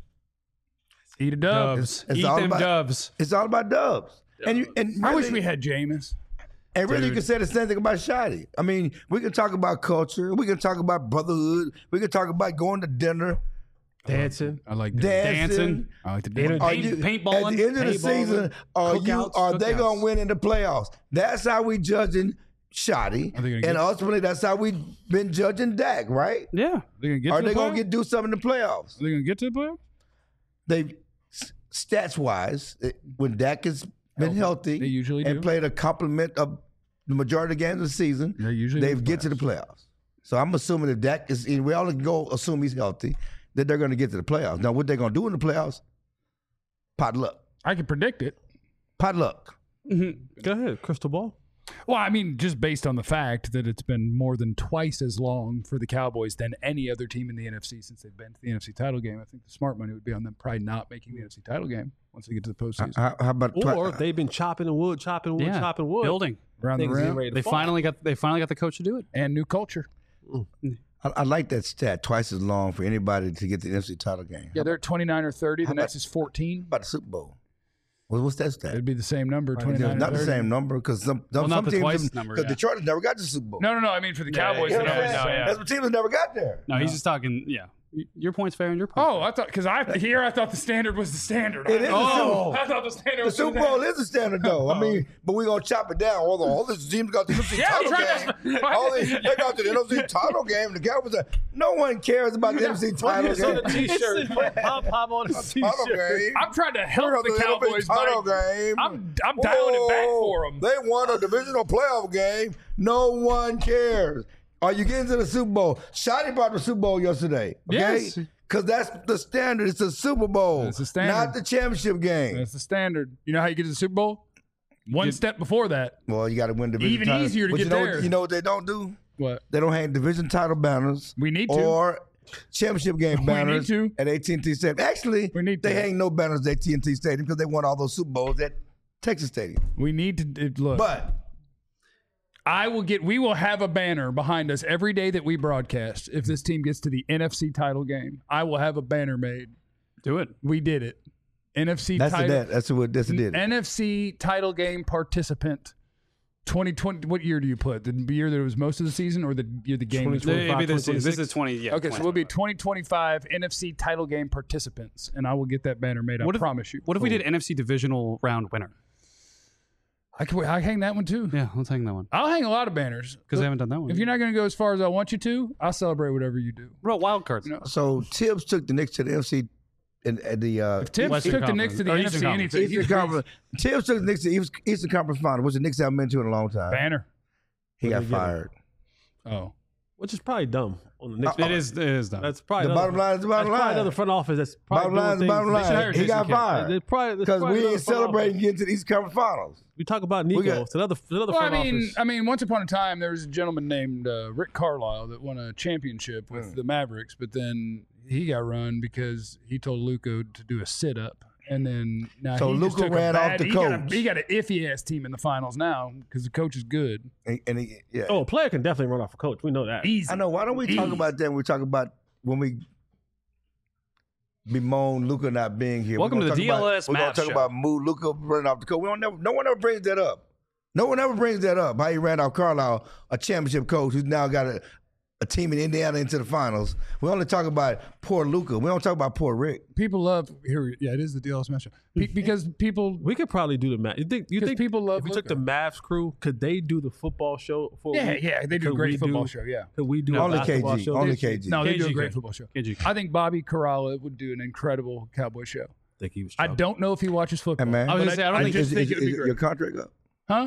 Eat a dub. Dubs. It's Eat all them about- dubs. It's all about dubs. And I wish really- we had Jameis. And really, you can say the same thing about Shotty. I mean, we can talk about culture. We can talk about brotherhood. We can talk about going to dinner, Dancing. I like that. dancing. I like the Energy. Are you- paintballing, At the end of the season, are they cookouts. going to win in the playoffs? That's how we judging Shotty. Are they gonna And get- ultimately, that's how we've been judging Dak, right? Yeah. They gonna get Are to the they going playoffs? to do something in the playoffs? Are they going to get to the playoffs? They stats wise, when Dak has been healthy, They usually do. and played a complement of the majority of the games of the season, They usually they make get to the playoffs. So I'm assuming if Dak is, and we all can go assume he's healthy, that they're going to get to the playoffs. Now, what they're going to do in the playoffs? Pot luck. I can predict it. Pot luck. Go ahead, crystal ball. Well, I mean, just based on the fact that it's been more than twice as long for the Cowboys than any other team in the NFC since they've been to the NFC title game. I think the smart money would be on them probably not making the NFC title game once they get to the postseason. How about Or they've been chopping wood, chopping wood. Building. Around the Things getting rim. ready to They fall. finally got the coach to do it. And new culture. I like that stat, twice as long for anybody to get the NFC title game. Yeah, they're at 29 or 30. The How next about- is 14. How about the Super Bowl? What's that stat? It'd be the same number, 29 or Not 30. the same number because some not the teams, twice number, because yeah. Detroit has never got to the Super Bowl. No, I mean for the Cowboys. You the know what I'm number's saying? the same. That's what teams that never got there. No, he's just talking. Yeah, your point's fair and your point. Oh, I thought because I thought the standard was the standard. It is the I thought the standard The was Super Bowl is the standard, though. I mean, but we're gonna chop it down. All these teams got the NFC Yeah, title try game. to- All these, they got the NFC title game. The Cowboys. No one cares about the NFC title It's on game. the t-shirt. Pop on the Title t-shirt. game. I'm trying to They help got the Cowboys. title by- game. I'm dialing it back for them. They won a divisional playoff game. No one cares. Are you getting to the Super Bowl? Shotty brought the Super Bowl yesterday. Okay? Yes. Because that's the standard. It's the Super Bowl. It's the standard. Not the championship game. That's the standard. You know how you get to the Super Bowl? One step before that. Well, you got to win division Even title. easier to But get you know, there. You know what they don't do? What? They don't hang division title banners. We need to. Or championship game We banners need to. at AT&T Stadium. Actually, We need they to. hang no banners at AT&T Stadium because they won all those Super Bowls at Texas Stadium. We need to look. But we will have a banner behind us every day that we broadcast. If this team gets to the NFC title game, I will have a banner made. Do it. We did it. NFC that's title. it. That's what it did. NFC title game participant. 2020. What year do you put? The year that it was most of the season, or the year the game? was? 2020. It'd be this 26. is 20. Yeah. Okay, so we'll be 2025 NFC title game participants, and I will get that banner made. I promise you. What if we did NFC divisional round winner? I hang that one too. Yeah, let's hang that one I'll hang a lot of banners because I haven't done that one. If you're not going to go as far as I want you to, I'll celebrate whatever you do. Bro, wild cards. So Tibbs took the Knicks to the NFC and the If Tibbs Western took the Knicks to the Conference. Or Eastern NFC, Conference. anything. Eastern Conference. Tibbs took the Knicks to the Eastern Conference Final, which the Knicks haven't been to in a long time. Banner. He got fired. Oh. which is probably dumb on the Knicks. It is dumb. That's probably The bottom line is the bottom that's probably line. another front office. That's probably Bottom line is the bottom They should hire line. He got Jason Kidd. fired because we ain't celebrating getting to the East Conference Finals. We talk about Nico. got- It's another Well, front office. I mean, once upon a time, there was a gentleman named Rick Carlisle that won a championship with the Mavericks, but then he got run because he told Luka to do a sit-up. And then now So he just Luka took a ran off bad- the he got a- coach. He got an iffy-ass team in the finals now because the coach is good. And he, yeah. Oh, a player can definitely run off a coach. We know that. Easy. I know. Why don't we talk about that when we talk about when we bemoan Luka not being here? Welcome We're to the gonna talk DLS about, We're going Mavs to talk show. about Luka running off the coach. No one ever brings that up. No one ever brings that up. How he ran off Carlisle, a championship coach who's now got a team in Indiana into the finals. We only talk about poor Luka. We don't talk about poor Rick. People love here. Yeah, it is the DLS matchup because people. We could probably do the Mavs. You think people love if we took Luka. the Mavs crew, could they do the football show? For a Yeah, week? yeah, they do a Could great we football show. Yeah. Could we do Only a basketball KG. show? Only KG. No, they do a KG great could. football show. KG. I think Bobby Corralla would do an incredible Cowboy show. I think he was. I don't know if he watches football. Hey, man. I was but gonna say, I don't think just Is, think it would be is great. your contract up? Huh?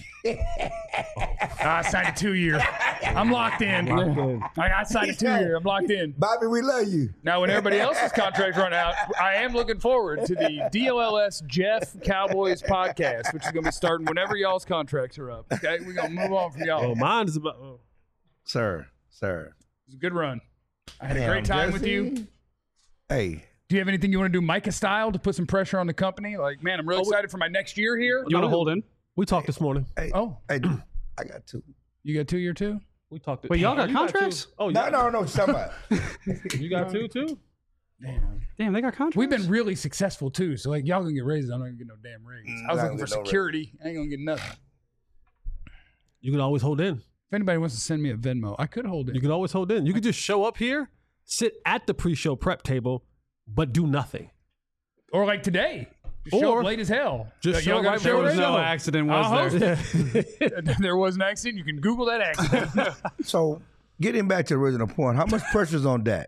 I signed a 2-year. I'm locked in. I signed a 2-year. I'm locked in. Bobby, we love you. Now, when everybody else's contracts run out, I am looking forward to the DLLS Jeff Cowboys podcast, which is going to be starting whenever y'all's contracts are up. Okay, we're going to move on from y'all. Oh, mine is about. Sir. It was a good run. I had a Damn, great time with Jesse. you. Hey. Do you have anything you want to do Micah style to put some pressure on the company? Like, man, I'm really excited for my next year here. You want to hold in? We talked this morning. Hey, Oh. hey, I got two. You got 2-year too? We talked. Wait, y'all got You contracts? two? Oh, No, yeah. no, no. Somebody. You got two too? Damn, they got contracts. We've been really successful too. So like y'all gonna get raises. I'm not gonna get no damn raise. I was not looking gonna for get no security. I ain't gonna get nothing. You can always hold in. If anybody wants to send me a Venmo, I could hold it. You can always hold in. You could just show up here, sit at the pre-show prep table, but do nothing. Or like today. Just show Or up late as hell. just show Y'all got right a there show with There was ready? no accident, was I'll there? host there was an accident. You can Google that accident. So, getting back to the original point, how much pressure's on Dak?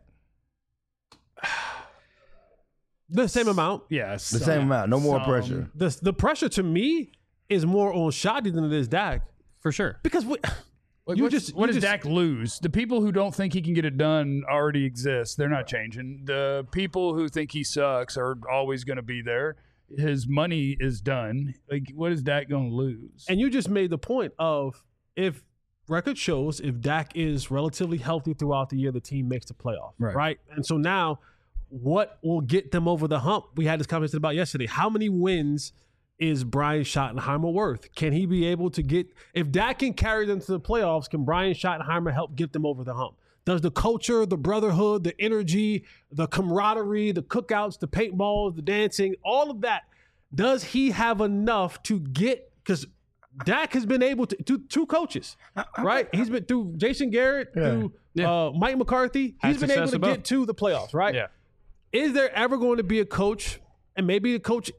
The same amount. Yes. The same amount. No more pressure. The pressure to me is more on Shadi than it is Dak. For sure. Because What you does just Dak lose? The people who don't think he can get it done already exist. They're not changing. The people who think he sucks are always going to be there. His money is done. Like, what is Dak going to lose? And you just made the point of if record shows if Dak is relatively healthy throughout the year, the team makes the playoff, right? And so now, what will get them over the hump? We had this conversation about yesterday. How many wins is Brian Schottenheimer worth? Can he be able to get, if Dak can carry them to the playoffs, can Brian Schottenheimer help get them over the hump? Does the culture, the brotherhood, the energy, the camaraderie, the cookouts, the paintballs, the dancing, all of that, does he have enough to get, because Dak has been able to, two coaches, right? He's been through Jason Garrett, through Mike McCarthy. He's been able success to with both. get to the playoffs, right? Yeah. Is there ever going to be a coach, and maybe the coach,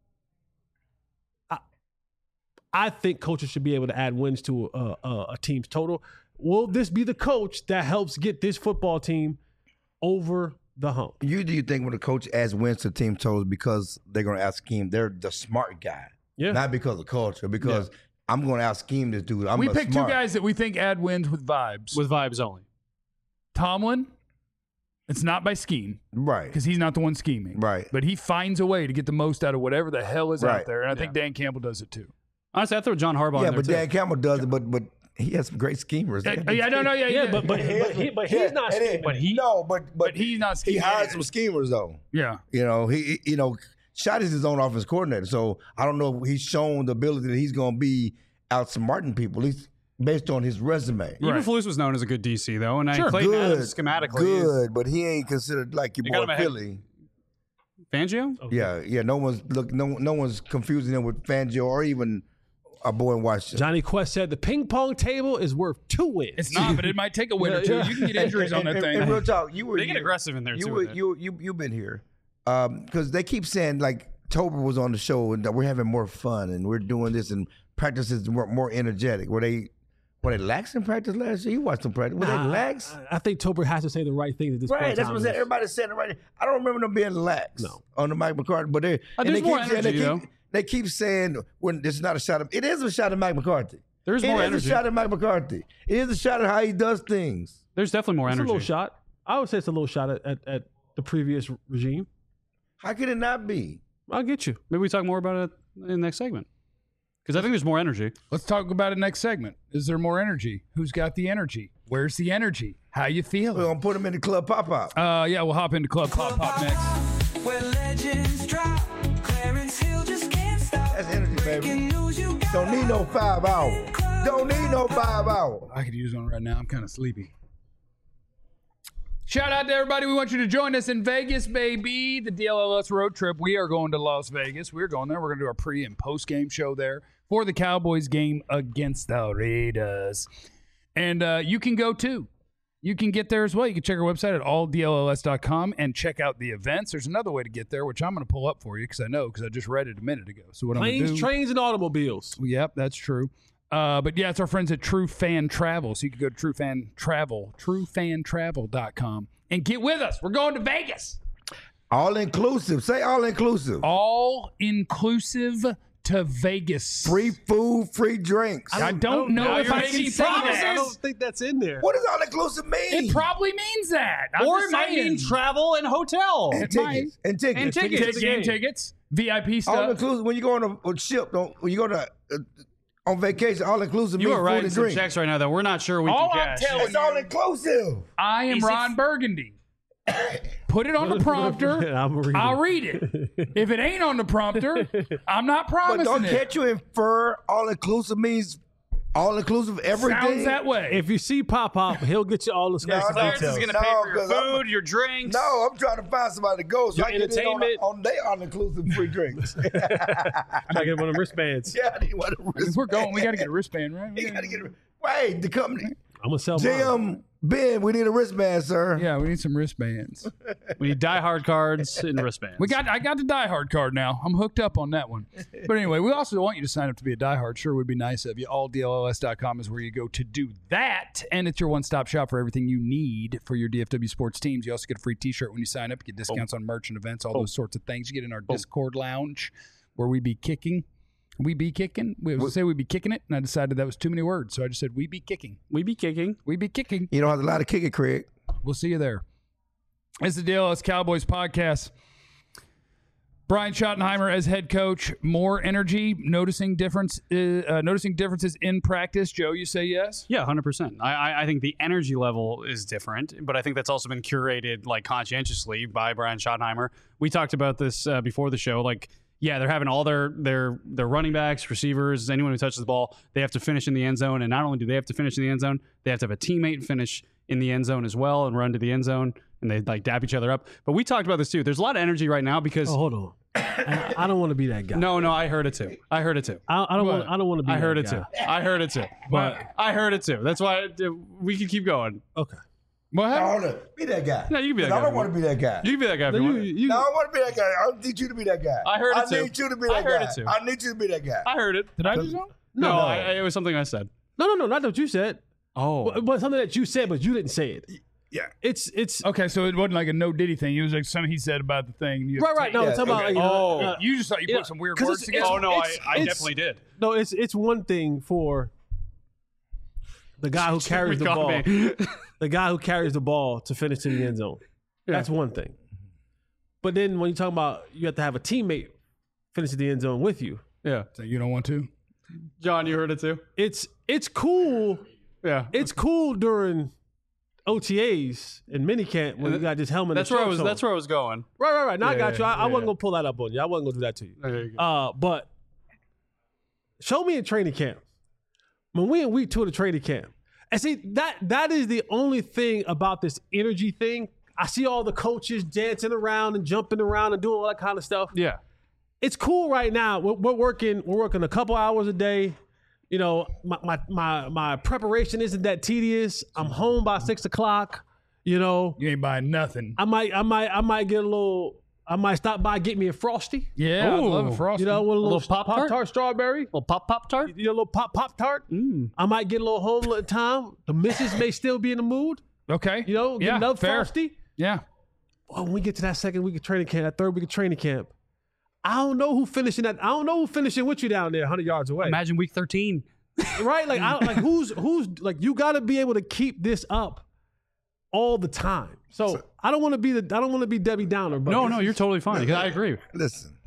I think coaches should be able to add wins to a team's total. Will this be the coach that helps get this football team over the hump? Do you think when a coach adds wins to team totals because they're going to ask Scheme, they're the smart guy, Yeah. not because of culture, because I'm going to ask Scheme this dude. we picked two guys that we think add wins with vibes. With vibes only. Tomlin, it's not by scheme right, because he's not the one scheming. Right. But he finds a way to get the most out of whatever the hell is out Right. there. And I think Dan Campbell does it too. Honestly, I throw John Harbaugh Yeah, in there but too. Dan Campbell does it, but he has some great schemers. I don't know. Yeah, But he's not scheming. But he's not He scheming. hired some schemers though. Yeah. Shot is his own offense coordinator, so I don't know if he's shown the ability that he's going to be outsmarting people, at least based on his resume. Even Flus was known as a good DC though, and Clayton Good, Adams schematically good, but he ain't considered like your got him boy ahead. Philly. Fangio. Yeah. No one's confusing him with Fangio or even our boy in Washington. Johnny Quest said the ping pong table is worth 2 wins. It's not, but it might take a win or two. You can get injuries on that thing. And real talk, you were They get aggressive in there you too. were with it. you've been here because they keep saying like Tober was on the show and that we're having more fun and we're doing this and practices were more energetic. Were they lax in practice last year? You watched them practice. Were they lax? I think Tober has to say the right things at this point. Right, in that's time. what I said. Everybody said it right. I don't remember them being lax on the Mike McCarthy, but they there's more energy, though. They keep saying when this is not a shot at it is a shot at Mike McCarthy. There's more It is energy. a shot at Mike McCarthy. It is a shot at how he does things. There's definitely more It's energy. a little shot. I would say it's a little shot at the previous regime. How can it not be? I'll get you. Maybe we talk more about it in the next segment. Because I think there's more energy. Let's talk about it next segment. Is there more energy? Who's got the energy? Where's the energy? How you We're feeling? gonna put them in the club pop-up. Yeah, we'll hop into Club Pop Pop next. Where legends drop, Clarence Hill just can't stop. That's energy, baby. News you got Don't need no 5 hours. Don't need no 5 hours. I could use one right now. I'm kind of sleepy. Shout out to everybody. We want you to join us in Vegas, baby. The DLLS road trip. We are going to Las Vegas. We're going there. We're going to do our pre and post game show there for the Cowboys game against the Raiders. And you can go too. You can get there as well. You can check our website at alldlls.com and check out the events. There's another way to get there, which I'm going to pull up for you because I just read it a minute ago. So what I'm going to Planes, do? trains, and automobiles. Yep, that's true. But yeah, it's our friends at True Fan Travel. So you can go to truefantravel.com and get with us. We're going to Vegas. All inclusive. Say all inclusive. All inclusive to Vegas. Free food, free drinks. I don't know if I can say I that. don't think that's in there. What does all inclusive mean? It probably means that. I'm Or just it might saying. mean travel and hotel. And tickets. And tickets. And tickets. Game tickets, VIP All stuff. inclusive. When you go on a ship, when you go to on vacation, all inclusive You means are food writing and some drink. checks right now that we're not sure we All can I'm cash. telling It's all inclusive. I am Ron Burgundy. Put it on the prompter. I'll read it. If it ain't on the prompter, I'm not But promising don't it. can't you infer all inclusive means all inclusive everything? Sounds that way. If you see Pop, he'll get you all the special Clarence is details. going to pay for your 'cause I'm- food, your drinks. No, I'm trying to find somebody to go so Your I can get in entertainment. on their all inclusive free drinks. I gotta get one of them wristbands. Yeah, I need one of them If we're going, we got to get a wristband, right? You gotta get it. Wait, the company. I'm gonna sell mine. Jim, Ben, we need a wristband, sir. Yeah, we need some wristbands. We need diehard cards and wristbands. I got the Die Hard card now. I'm hooked up on that one. But anyway, we also want you to sign up to be a Die Hard. Sure would be nice of you. AllDLLS.com is where you go to do that. And it's your one-stop shop for everything you need for your DFW sports teams. You also get a free t-shirt when you sign up. You get discounts on merch and events, all those sorts of things. You get in our Discord lounge where we be kicking. We be kicking. We was gonna say we be kicking it, and I decided that was too many words. So I just said we be kicking. We be kicking. We be kicking. You don't have a lot of kick it, Craig. We'll see you there. It's the DLS Cowboys podcast. Brian Schottenheimer as head coach. More energy. Noticing differences in practice. Joe, you say yes? Yeah, 100%. I think the energy level is different, but I think that's also been curated like conscientiously by Brian Schottenheimer. We talked about this before the show. Like, yeah, they're having all their running backs, receivers, anyone who touches the ball, they have to finish in the end zone. And not only do they have to finish in the end zone, they have to have a teammate finish in the end zone as well and run to the end zone. And they like dap each other up. But we talked about this too. There's a lot of energy right now because Oh, hold on. I don't want to be that guy. no, I heard it too. I heard it too. I don't want to be. I heard that it guy. too. I heard it too. But I heard it too. That's why we can keep going. okay. What happened? Hold on. Be that guy. No, you can be that 'Cause guy. I don't want to be that guy. You can be that guy. If No, you want. you, No, I want to be that guy. I need you to be that guy. I heard it too. I need you to be that I heard guy. it too. I need you to be that guy. I heard it. Did I just know? No, it was something I said. no, not what you said. Oh, But something that you said, but you didn't say it. Yeah. It's Okay, so it wasn't like a no Diddy thing. It was like something he said about the thing. You right. No, Yeah, I'm talking about. okay. Like, Oh. You just thought you Yeah, put some weird 'cause words it's- together. oh no, I it's- definitely did. No, it's one thing for the guy who carries the ball. The guy who carries the ball to finish in the end zone. That's one thing. But then when you talk about you have to have a teammate finish in the end zone with you, Yeah, So you don't want to? John, you heard it too. it's cool. Yeah, It's cool during OTAs and minicamp when you got this helmet. that's and where I shorts was. on. That's where I was going. Right. Now I got you. I yeah, wasn't gonna pull that up on you. I wasn't gonna do that to you. There you go. But show me in training camp. When we in week 2 of the training camp, and see that is the only thing about this energy thing. I see all the coaches dancing around and jumping around and doing all that kind of stuff. Yeah, It's cool right now. We're working a couple hours a day. You know, my preparation isn't that tedious. I'm home by 6:00. You know, You ain't buying nothing. I might get a little. I might stop by, get me a Frosty. Yeah, I love a Frosty. You know, with a little Pop-Tart? Pop-Tart strawberry. little pop tart. You know, a little Pop-Tart. I might get a little home at a time. The missus may still be in the mood. Okay. You know, get yeah, another fair. Frosty. Yeah. Well, when we get to that second week of training camp, that third week of training camp, I don't know who finishing with you down there 100 yards away. Imagine week 13. Right? Like, who's like, you got to be able to keep this up all the time. So I don't want to be Debbie Downer. But No, you're totally fine. Because I agree. Listen,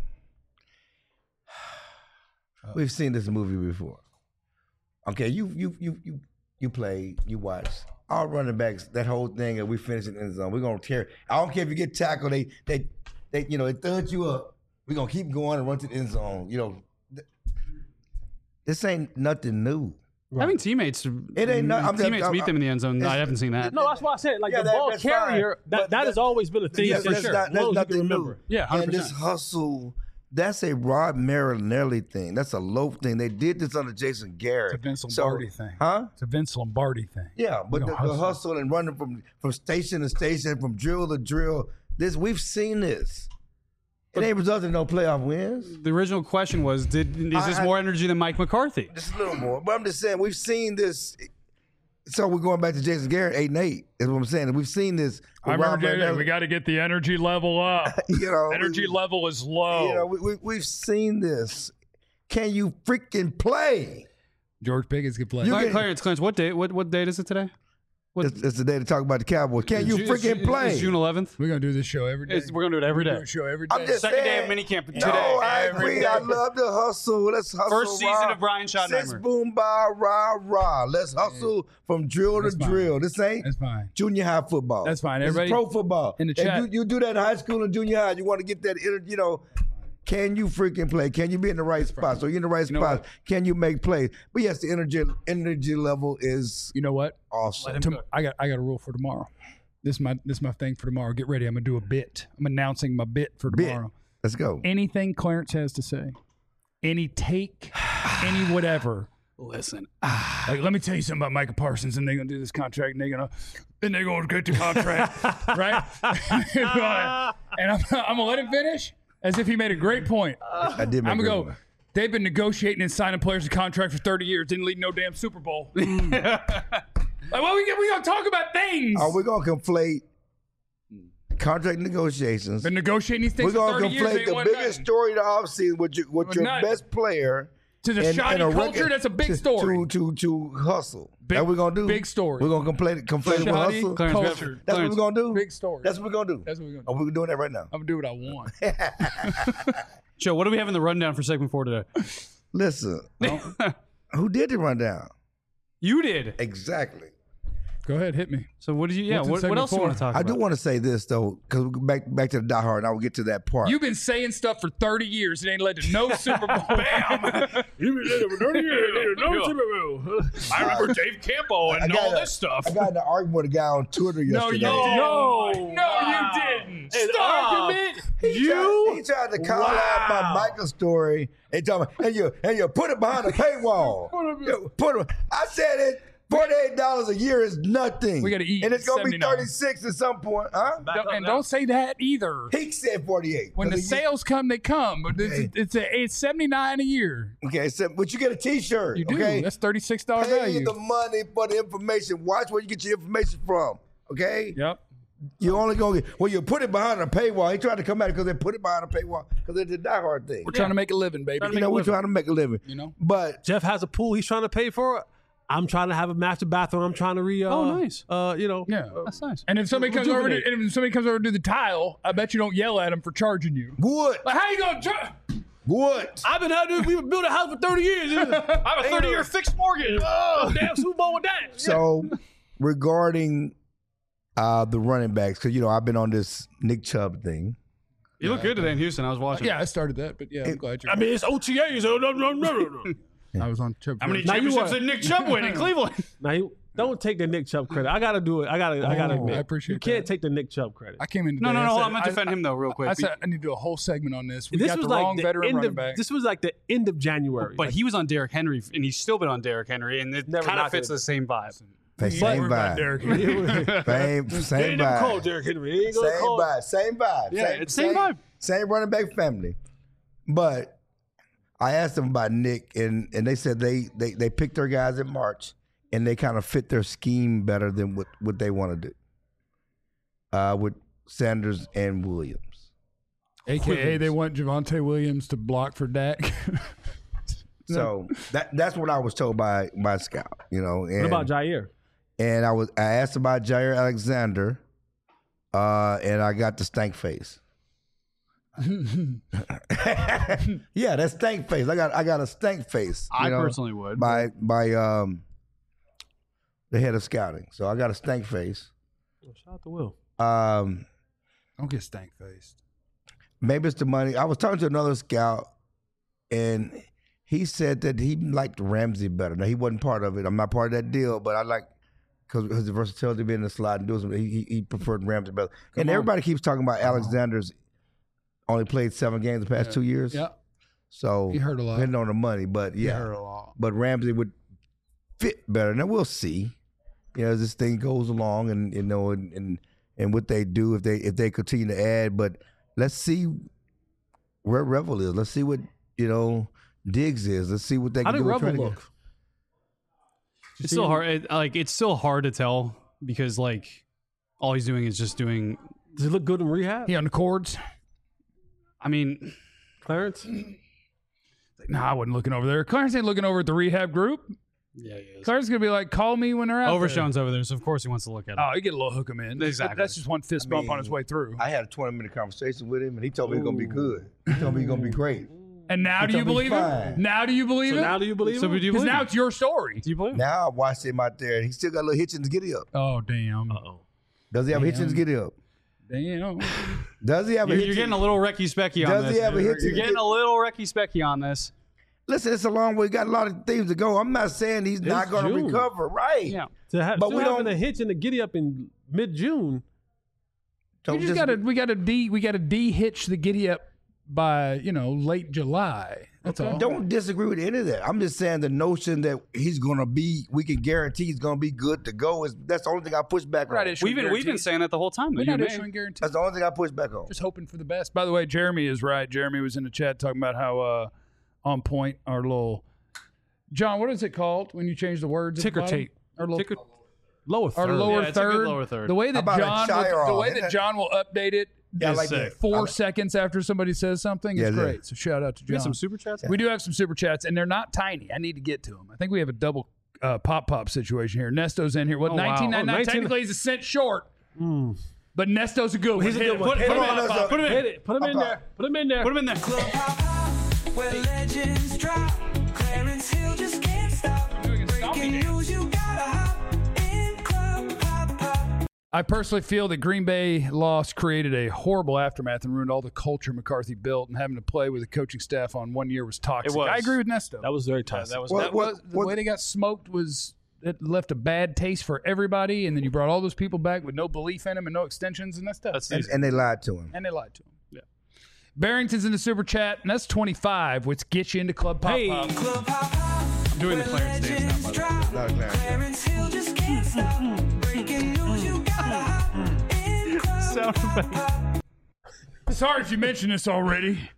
we've seen this movie before. Okay, you play, you watch. All running backs, that whole thing, and we finish it in the zone. We're gonna tear. I don't care if you get tackled. They thud you up. We're gonna keep going and run to the end zone. This ain't nothing new. Having teammates, It ain't no- teammates beat them in the end zone. I haven't seen that. No, that's why I said Yeah, the ball that's carrier. fine. But That has always been a thing Yeah, for that's sure. not- As long that's as you can nothing remember. new. Yeah, 100%. And this hustle, that's a Rod Marinelli thing. That's a Loaf thing. They did this under Jason Garrett. It's a Vince Lombardi thing. Huh? It's a Vince Lombardi thing. Yeah, but We the gonna hustle and running from station to station, from drill to drill. We've seen this. It ain't resulted in no playoff wins. The original question was, is this more energy than Mike McCarthy? Just a little more. But I'm just saying, we've seen this. So we're going back to Jason Garrett, 8-8. Is what I'm saying. We've seen this. I with Rod remember Marinelli. we got to get the energy level up. Energy level is low. We've seen this. Can you freaking play? George Pickens can play. Clarence, what date? What date is it today? It's the day to talk about the Cowboys. Can you freaking play? It's June 11th. We're going to do this show every day. We're going to do it every We're day. doing a show every day. I'm just Second day saying, of minicamp today. No, I Every agree. day. I love the hustle. Let's hustle. First season rah. of Brian Schottenheimer. Since boom, ba, rah, rah. Let's hustle from drill That's to fine. drill. This ain't That's fine. junior high football. That's fine. This is Everybody pro football. in the If chat- you do that in high school and junior high. You want to get that, can you freaking play? Can you be in the right spot? So you're in the right know spot. what? Can you make plays? But yes, the energy level is You know what? awesome. I got a rule for tomorrow. This is my thing for tomorrow. Get ready. I'm going to do a bit. I'm announcing my bit for Bit. tomorrow. Let's go. Anything Clarence has to say, any take, any whatever. Listen, Like, let me tell you something about Micah Parsons, and they're gonna do this contract, and they're gonna get the contract, right? And I'm gonna let him finish as if he made a great point. I did make I'm a gonna good go. one. They've been negotiating and signing players to contract for 30 years, didn't lead no damn Super Bowl. Like, well, we gonna talk about things. Are we gonna conflate contract negotiations? Been negotiating these things We're for gonna 30 years. conflate ain't the one biggest nothing. story of the offseason with your nothing. best player To the shoddy culture, that's a big story. To hustle. Big- That's what we're gonna do. big story. We're gonna conflate it with Shoddy hustle. Clarence, culture. That's what we're gonna do. Big story. That's what we're gonna do. That's what we're gonna do. Oh, we're doing that right now. I'm gonna do what I want. Joe, what do we have in the rundown for segment 4 today? Listen, who did the rundown? You did. Exactly. Go ahead, hit me. So what did you? Yeah. What's in What segment else do you 4? want to talk I about? do want to say this though, because back to the Die Hard, and I will get to that part. You've been saying stuff for 30 years. It ain't led to no Super Bowl. Bam. You've been there for 30 years. No Super Bowl. I remember Dave Campo and all this stuff. I got in an argument with a guy on Twitter No, yesterday. you didn't. No. No, you didn't. An Stop. argument? He tried to call out my Michael story and tell me, and you put it behind a paywall. I said it. $48 a year is nothing. We gotta eat and it's gonna be 79. 36 at some point, huh? Don't say that either. He said 48. When the 'Cause he- sales come, they come. But Okay. it's $79 a year. Okay, so but you get a T-shirt. You do. Okay? That's $36 Pay value. the money for the information. Watch where you get your information from. Okay. Yep. You only gonna get you put it behind a paywall. He tried to come at it because they put it behind a paywall because it's a Die Hard thing. We're trying to make a living, baby. We're trying to make a living. You know? But Jeff has a pool he's trying to pay for. I'm trying to have a master bathroom. I'm trying to nice. Yeah. That's nice. And if somebody comes over rejuvenate. to do the tile, I bet you don't yell at them for charging you. wood. Like, how you gonna charge? Wood. I've been out there. We built a house for 30 years. I have a 30-year fixed mortgage. Oh, damn Super Bowl with that. So regarding the running backs, because I've been on this Nick Chubb thing. You look good today in Houston. I was watching. Yeah, I started that, but yeah, I'm glad you're. I mean, it's OTAs. I was on Chubb. How many Now you championships are- did Nick Chubb win in Cleveland? Now, don't take the Nick Chubb credit. I got to do it. I got to admit. I appreciate You can't that. take the Nick Chubb credit. I came in today. No, no, I no. said- I'm gonna defend him though, real quick. I said I need to do a whole segment on this. We This got was the like wrong the veteran end running of. back. This was like the end of January. But he was on Derrick Henry, and he's still been on Derrick Henry, and it Never kind of knocked fits it. the same vibe. Same about vibe. Derrick. Same ain't never called vibe. Derrick Henry. He ain't gonna Same call. vibe. Same vibe. Yeah, it's same vibe. Same running back family. But I asked them about Nick, and they said they picked their guys in March, and they kind of fit their scheme better than what they want to do with Sanders and Williams. AKA, they want Javonte Williams to block for Dak. So that's what I was told by Scout. And What about Jair? And I asked about Jair Alexander, and I got the stank face. Yeah, that stank face. I got a stank face. I personally would. By the head of scouting. So I got a stank face. Shout out to Will. Don't get stank faced. Maybe it's the money. I was talking to another scout, and he said that he liked Ramsey better. Now, he wasn't part of it. I'm not part of that deal, but I like, because his versatility being in the slot and doing something, he preferred Ramsey better. Everybody keeps talking about Alexander's only played 7 games the past 2 years. Yeah. So he hurt a lot. Depending on the money, but yeah. He hurt a lot. But Ramsey would fit better. Now we'll see. As this thing goes along, and and what they do if they continue to add. But let's see where Revel is. Let's see what Diggs is. Let's see what they can do. How did Revel look? It's still hard. It's still hard to tell because all he's doing is just doing. Does he look good in rehab? He on the cords? I mean, Clarence? Nah, I wasn't looking over there. Clarence ain't looking over at the rehab group. Yeah, he is. Clarence gonna be like, call me when they're out Overshone's over there, so of course he wants to look at it. Oh, he get a little hook him in. Exactly. That's just one fist bump on his way through. I had a 20-minute conversation with him, and he told me he's gonna be good. He told me he's gonna be great. And now do you believe him? Now do you believe him? Now do you believe him? Because now it's your story. Do you believe him? Now I watched him out there, and he still got a little hitch in his giddy up. Oh, damn. Uh-oh. Does he have a hitch in his giddy up? Damn. Does he have a hitch? You're getting a little Recky-Specky on Does this. he have a hitch? You're getting a little Recky-Specky on this. Listen, it's a long way. We got a lot of things to go. I'm not saying he's not going to June. recover, right? Yeah. But we having don't- a hitch in the giddy up in mid-June. Don't We got to de-hitch the giddy up by, late July. That's all. Don't disagree with any of that. I'm just saying the notion that he's going to be, we can guarantee he's going to be good to go that's the only thing I push back on. We've been saying that the whole time. We're though, not you issuing may. guarantees. That's the only thing I push back on. Just hoping for the best. By the way, Jeremy is right. Jeremy was in the chat talking about how on point our little John. What is it called when you change the words? Ticker tape. Our little, Ticker- Lower third. our lower Yeah, it's a good third. lower third. The way that How about a Chiron? John will update it. Yeah, I is like that. 4 seconds after somebody says something. Yeah, It's yeah. great. So shout out to John. We have some super chats. We do have some super chats, and they're not tiny. I need to get to them. I think we have a double pop situation here. Nesto's in here. What, Oh, wow. 19.99? 19 Technically, he's a cent short. But Nesto's a good one. He's a Hit good it. one. Put Hit him him in. on, Nesto. Put him in. Hit it. Put him in there. Put him in there. Put him in there. Club Pop Pop, where legends drop. Clarence Hill just can't stop. Breaking news, you gotta hop in Club Pop Pop. I personally feel that Green Bay loss created a horrible aftermath and ruined all the culture McCarthy built, and having to play with the coaching staff on 1 year was toxic. It was. I agree with Nesto. That was very tough. That was What- The way they got smoked was it left a bad taste for everybody, and then you brought all those people back with no belief in them and no extensions, and that's tough. And they lied to him. And they lied to him. Yeah. Barrington's in the super chat, and that's 25, which gets you into Club Pop Hey. Pop. Club Pop Pop, I'm doing the Clarence dance now, by the way. drop. Not a Clarence. Clarence Hill just can't stop. Breaking news, you gotta hop in Club Pop Pop. Sorry if you mentioned this already.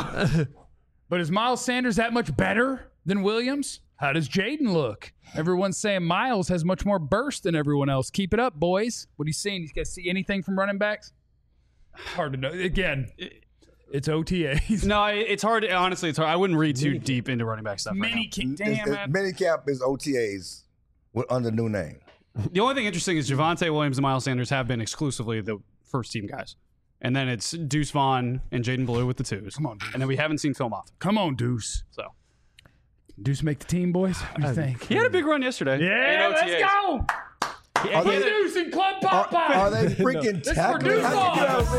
But is Miles Sanders that much better than Williams? How does Jaden look? Everyone's saying Miles has much more burst than everyone else. Keep it up, boys. What are you seeing? You guys see anything from running backs? Hard to know. Again, it's OTAs. No, it's hard. Honestly, it's hard. I wouldn't read too deep into running back stuff right now. Mini kick. Damn it. Minicamp is OTAs under new name. The only thing interesting is Javonte Williams and Miles Sanders have been exclusively the first team guys. And then it's Deuce Vaughn and Jaden Blue with the twos. Come on, Deuce. And then we haven't seen film off. Come on, Deuce. So Deuce make the team, boys? What do you think? he had a big run yesterday. Yeah, in let's OTAs. go. Are Put they, Deuce in Club Pop Pop. are they freaking This is for tackling? Deuce Vaughn.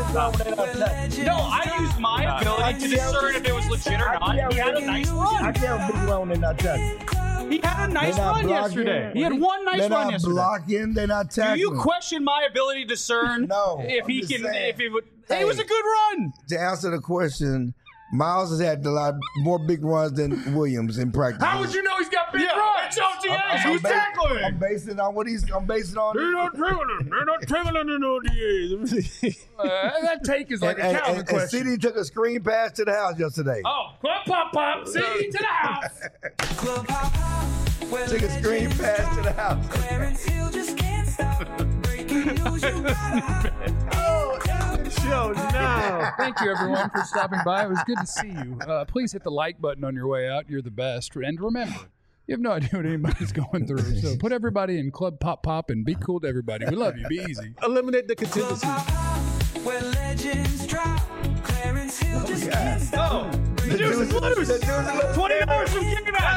No, I used my ability to discern if it was legit or not. He had a nice run. can't be wrong. They're not tackling. He had a nice They're not run blocking. yesterday. He had one nice They're run not yesterday. blocking. They're not Do tackling. you question my ability to discern No, if I'm he just can, saying. if he would? Hey. It was a good run. To answer the question, Miles has had a lot more big runs than Williams in practice. How would you know he's got big runs? It's OTAs. Who's I'm tackling? basing on what I'm basing on. They're not traveling in OTAs. That take is like a Calvin and question. CD took a screen pass to the house yesterday. Oh, Club Pop Pop, CD to the house. Club Pop Pop, where Took a screen legends pass to the drop. house. Clarence Hill just can't stop. Breaking news, you gotta hop in Club Show now. Thank you, everyone, for stopping by. It was good to see you. Please hit the like button on your way out. You're the best. And remember, You have no idea what anybody's going through. So put everybody in Club Pop Pop and be cool to everybody. We love you. Be easy. Eliminate the contingency. Where legends drop, Clarence Hill just can't stop. The juice is loose. $20 from Kicking Back.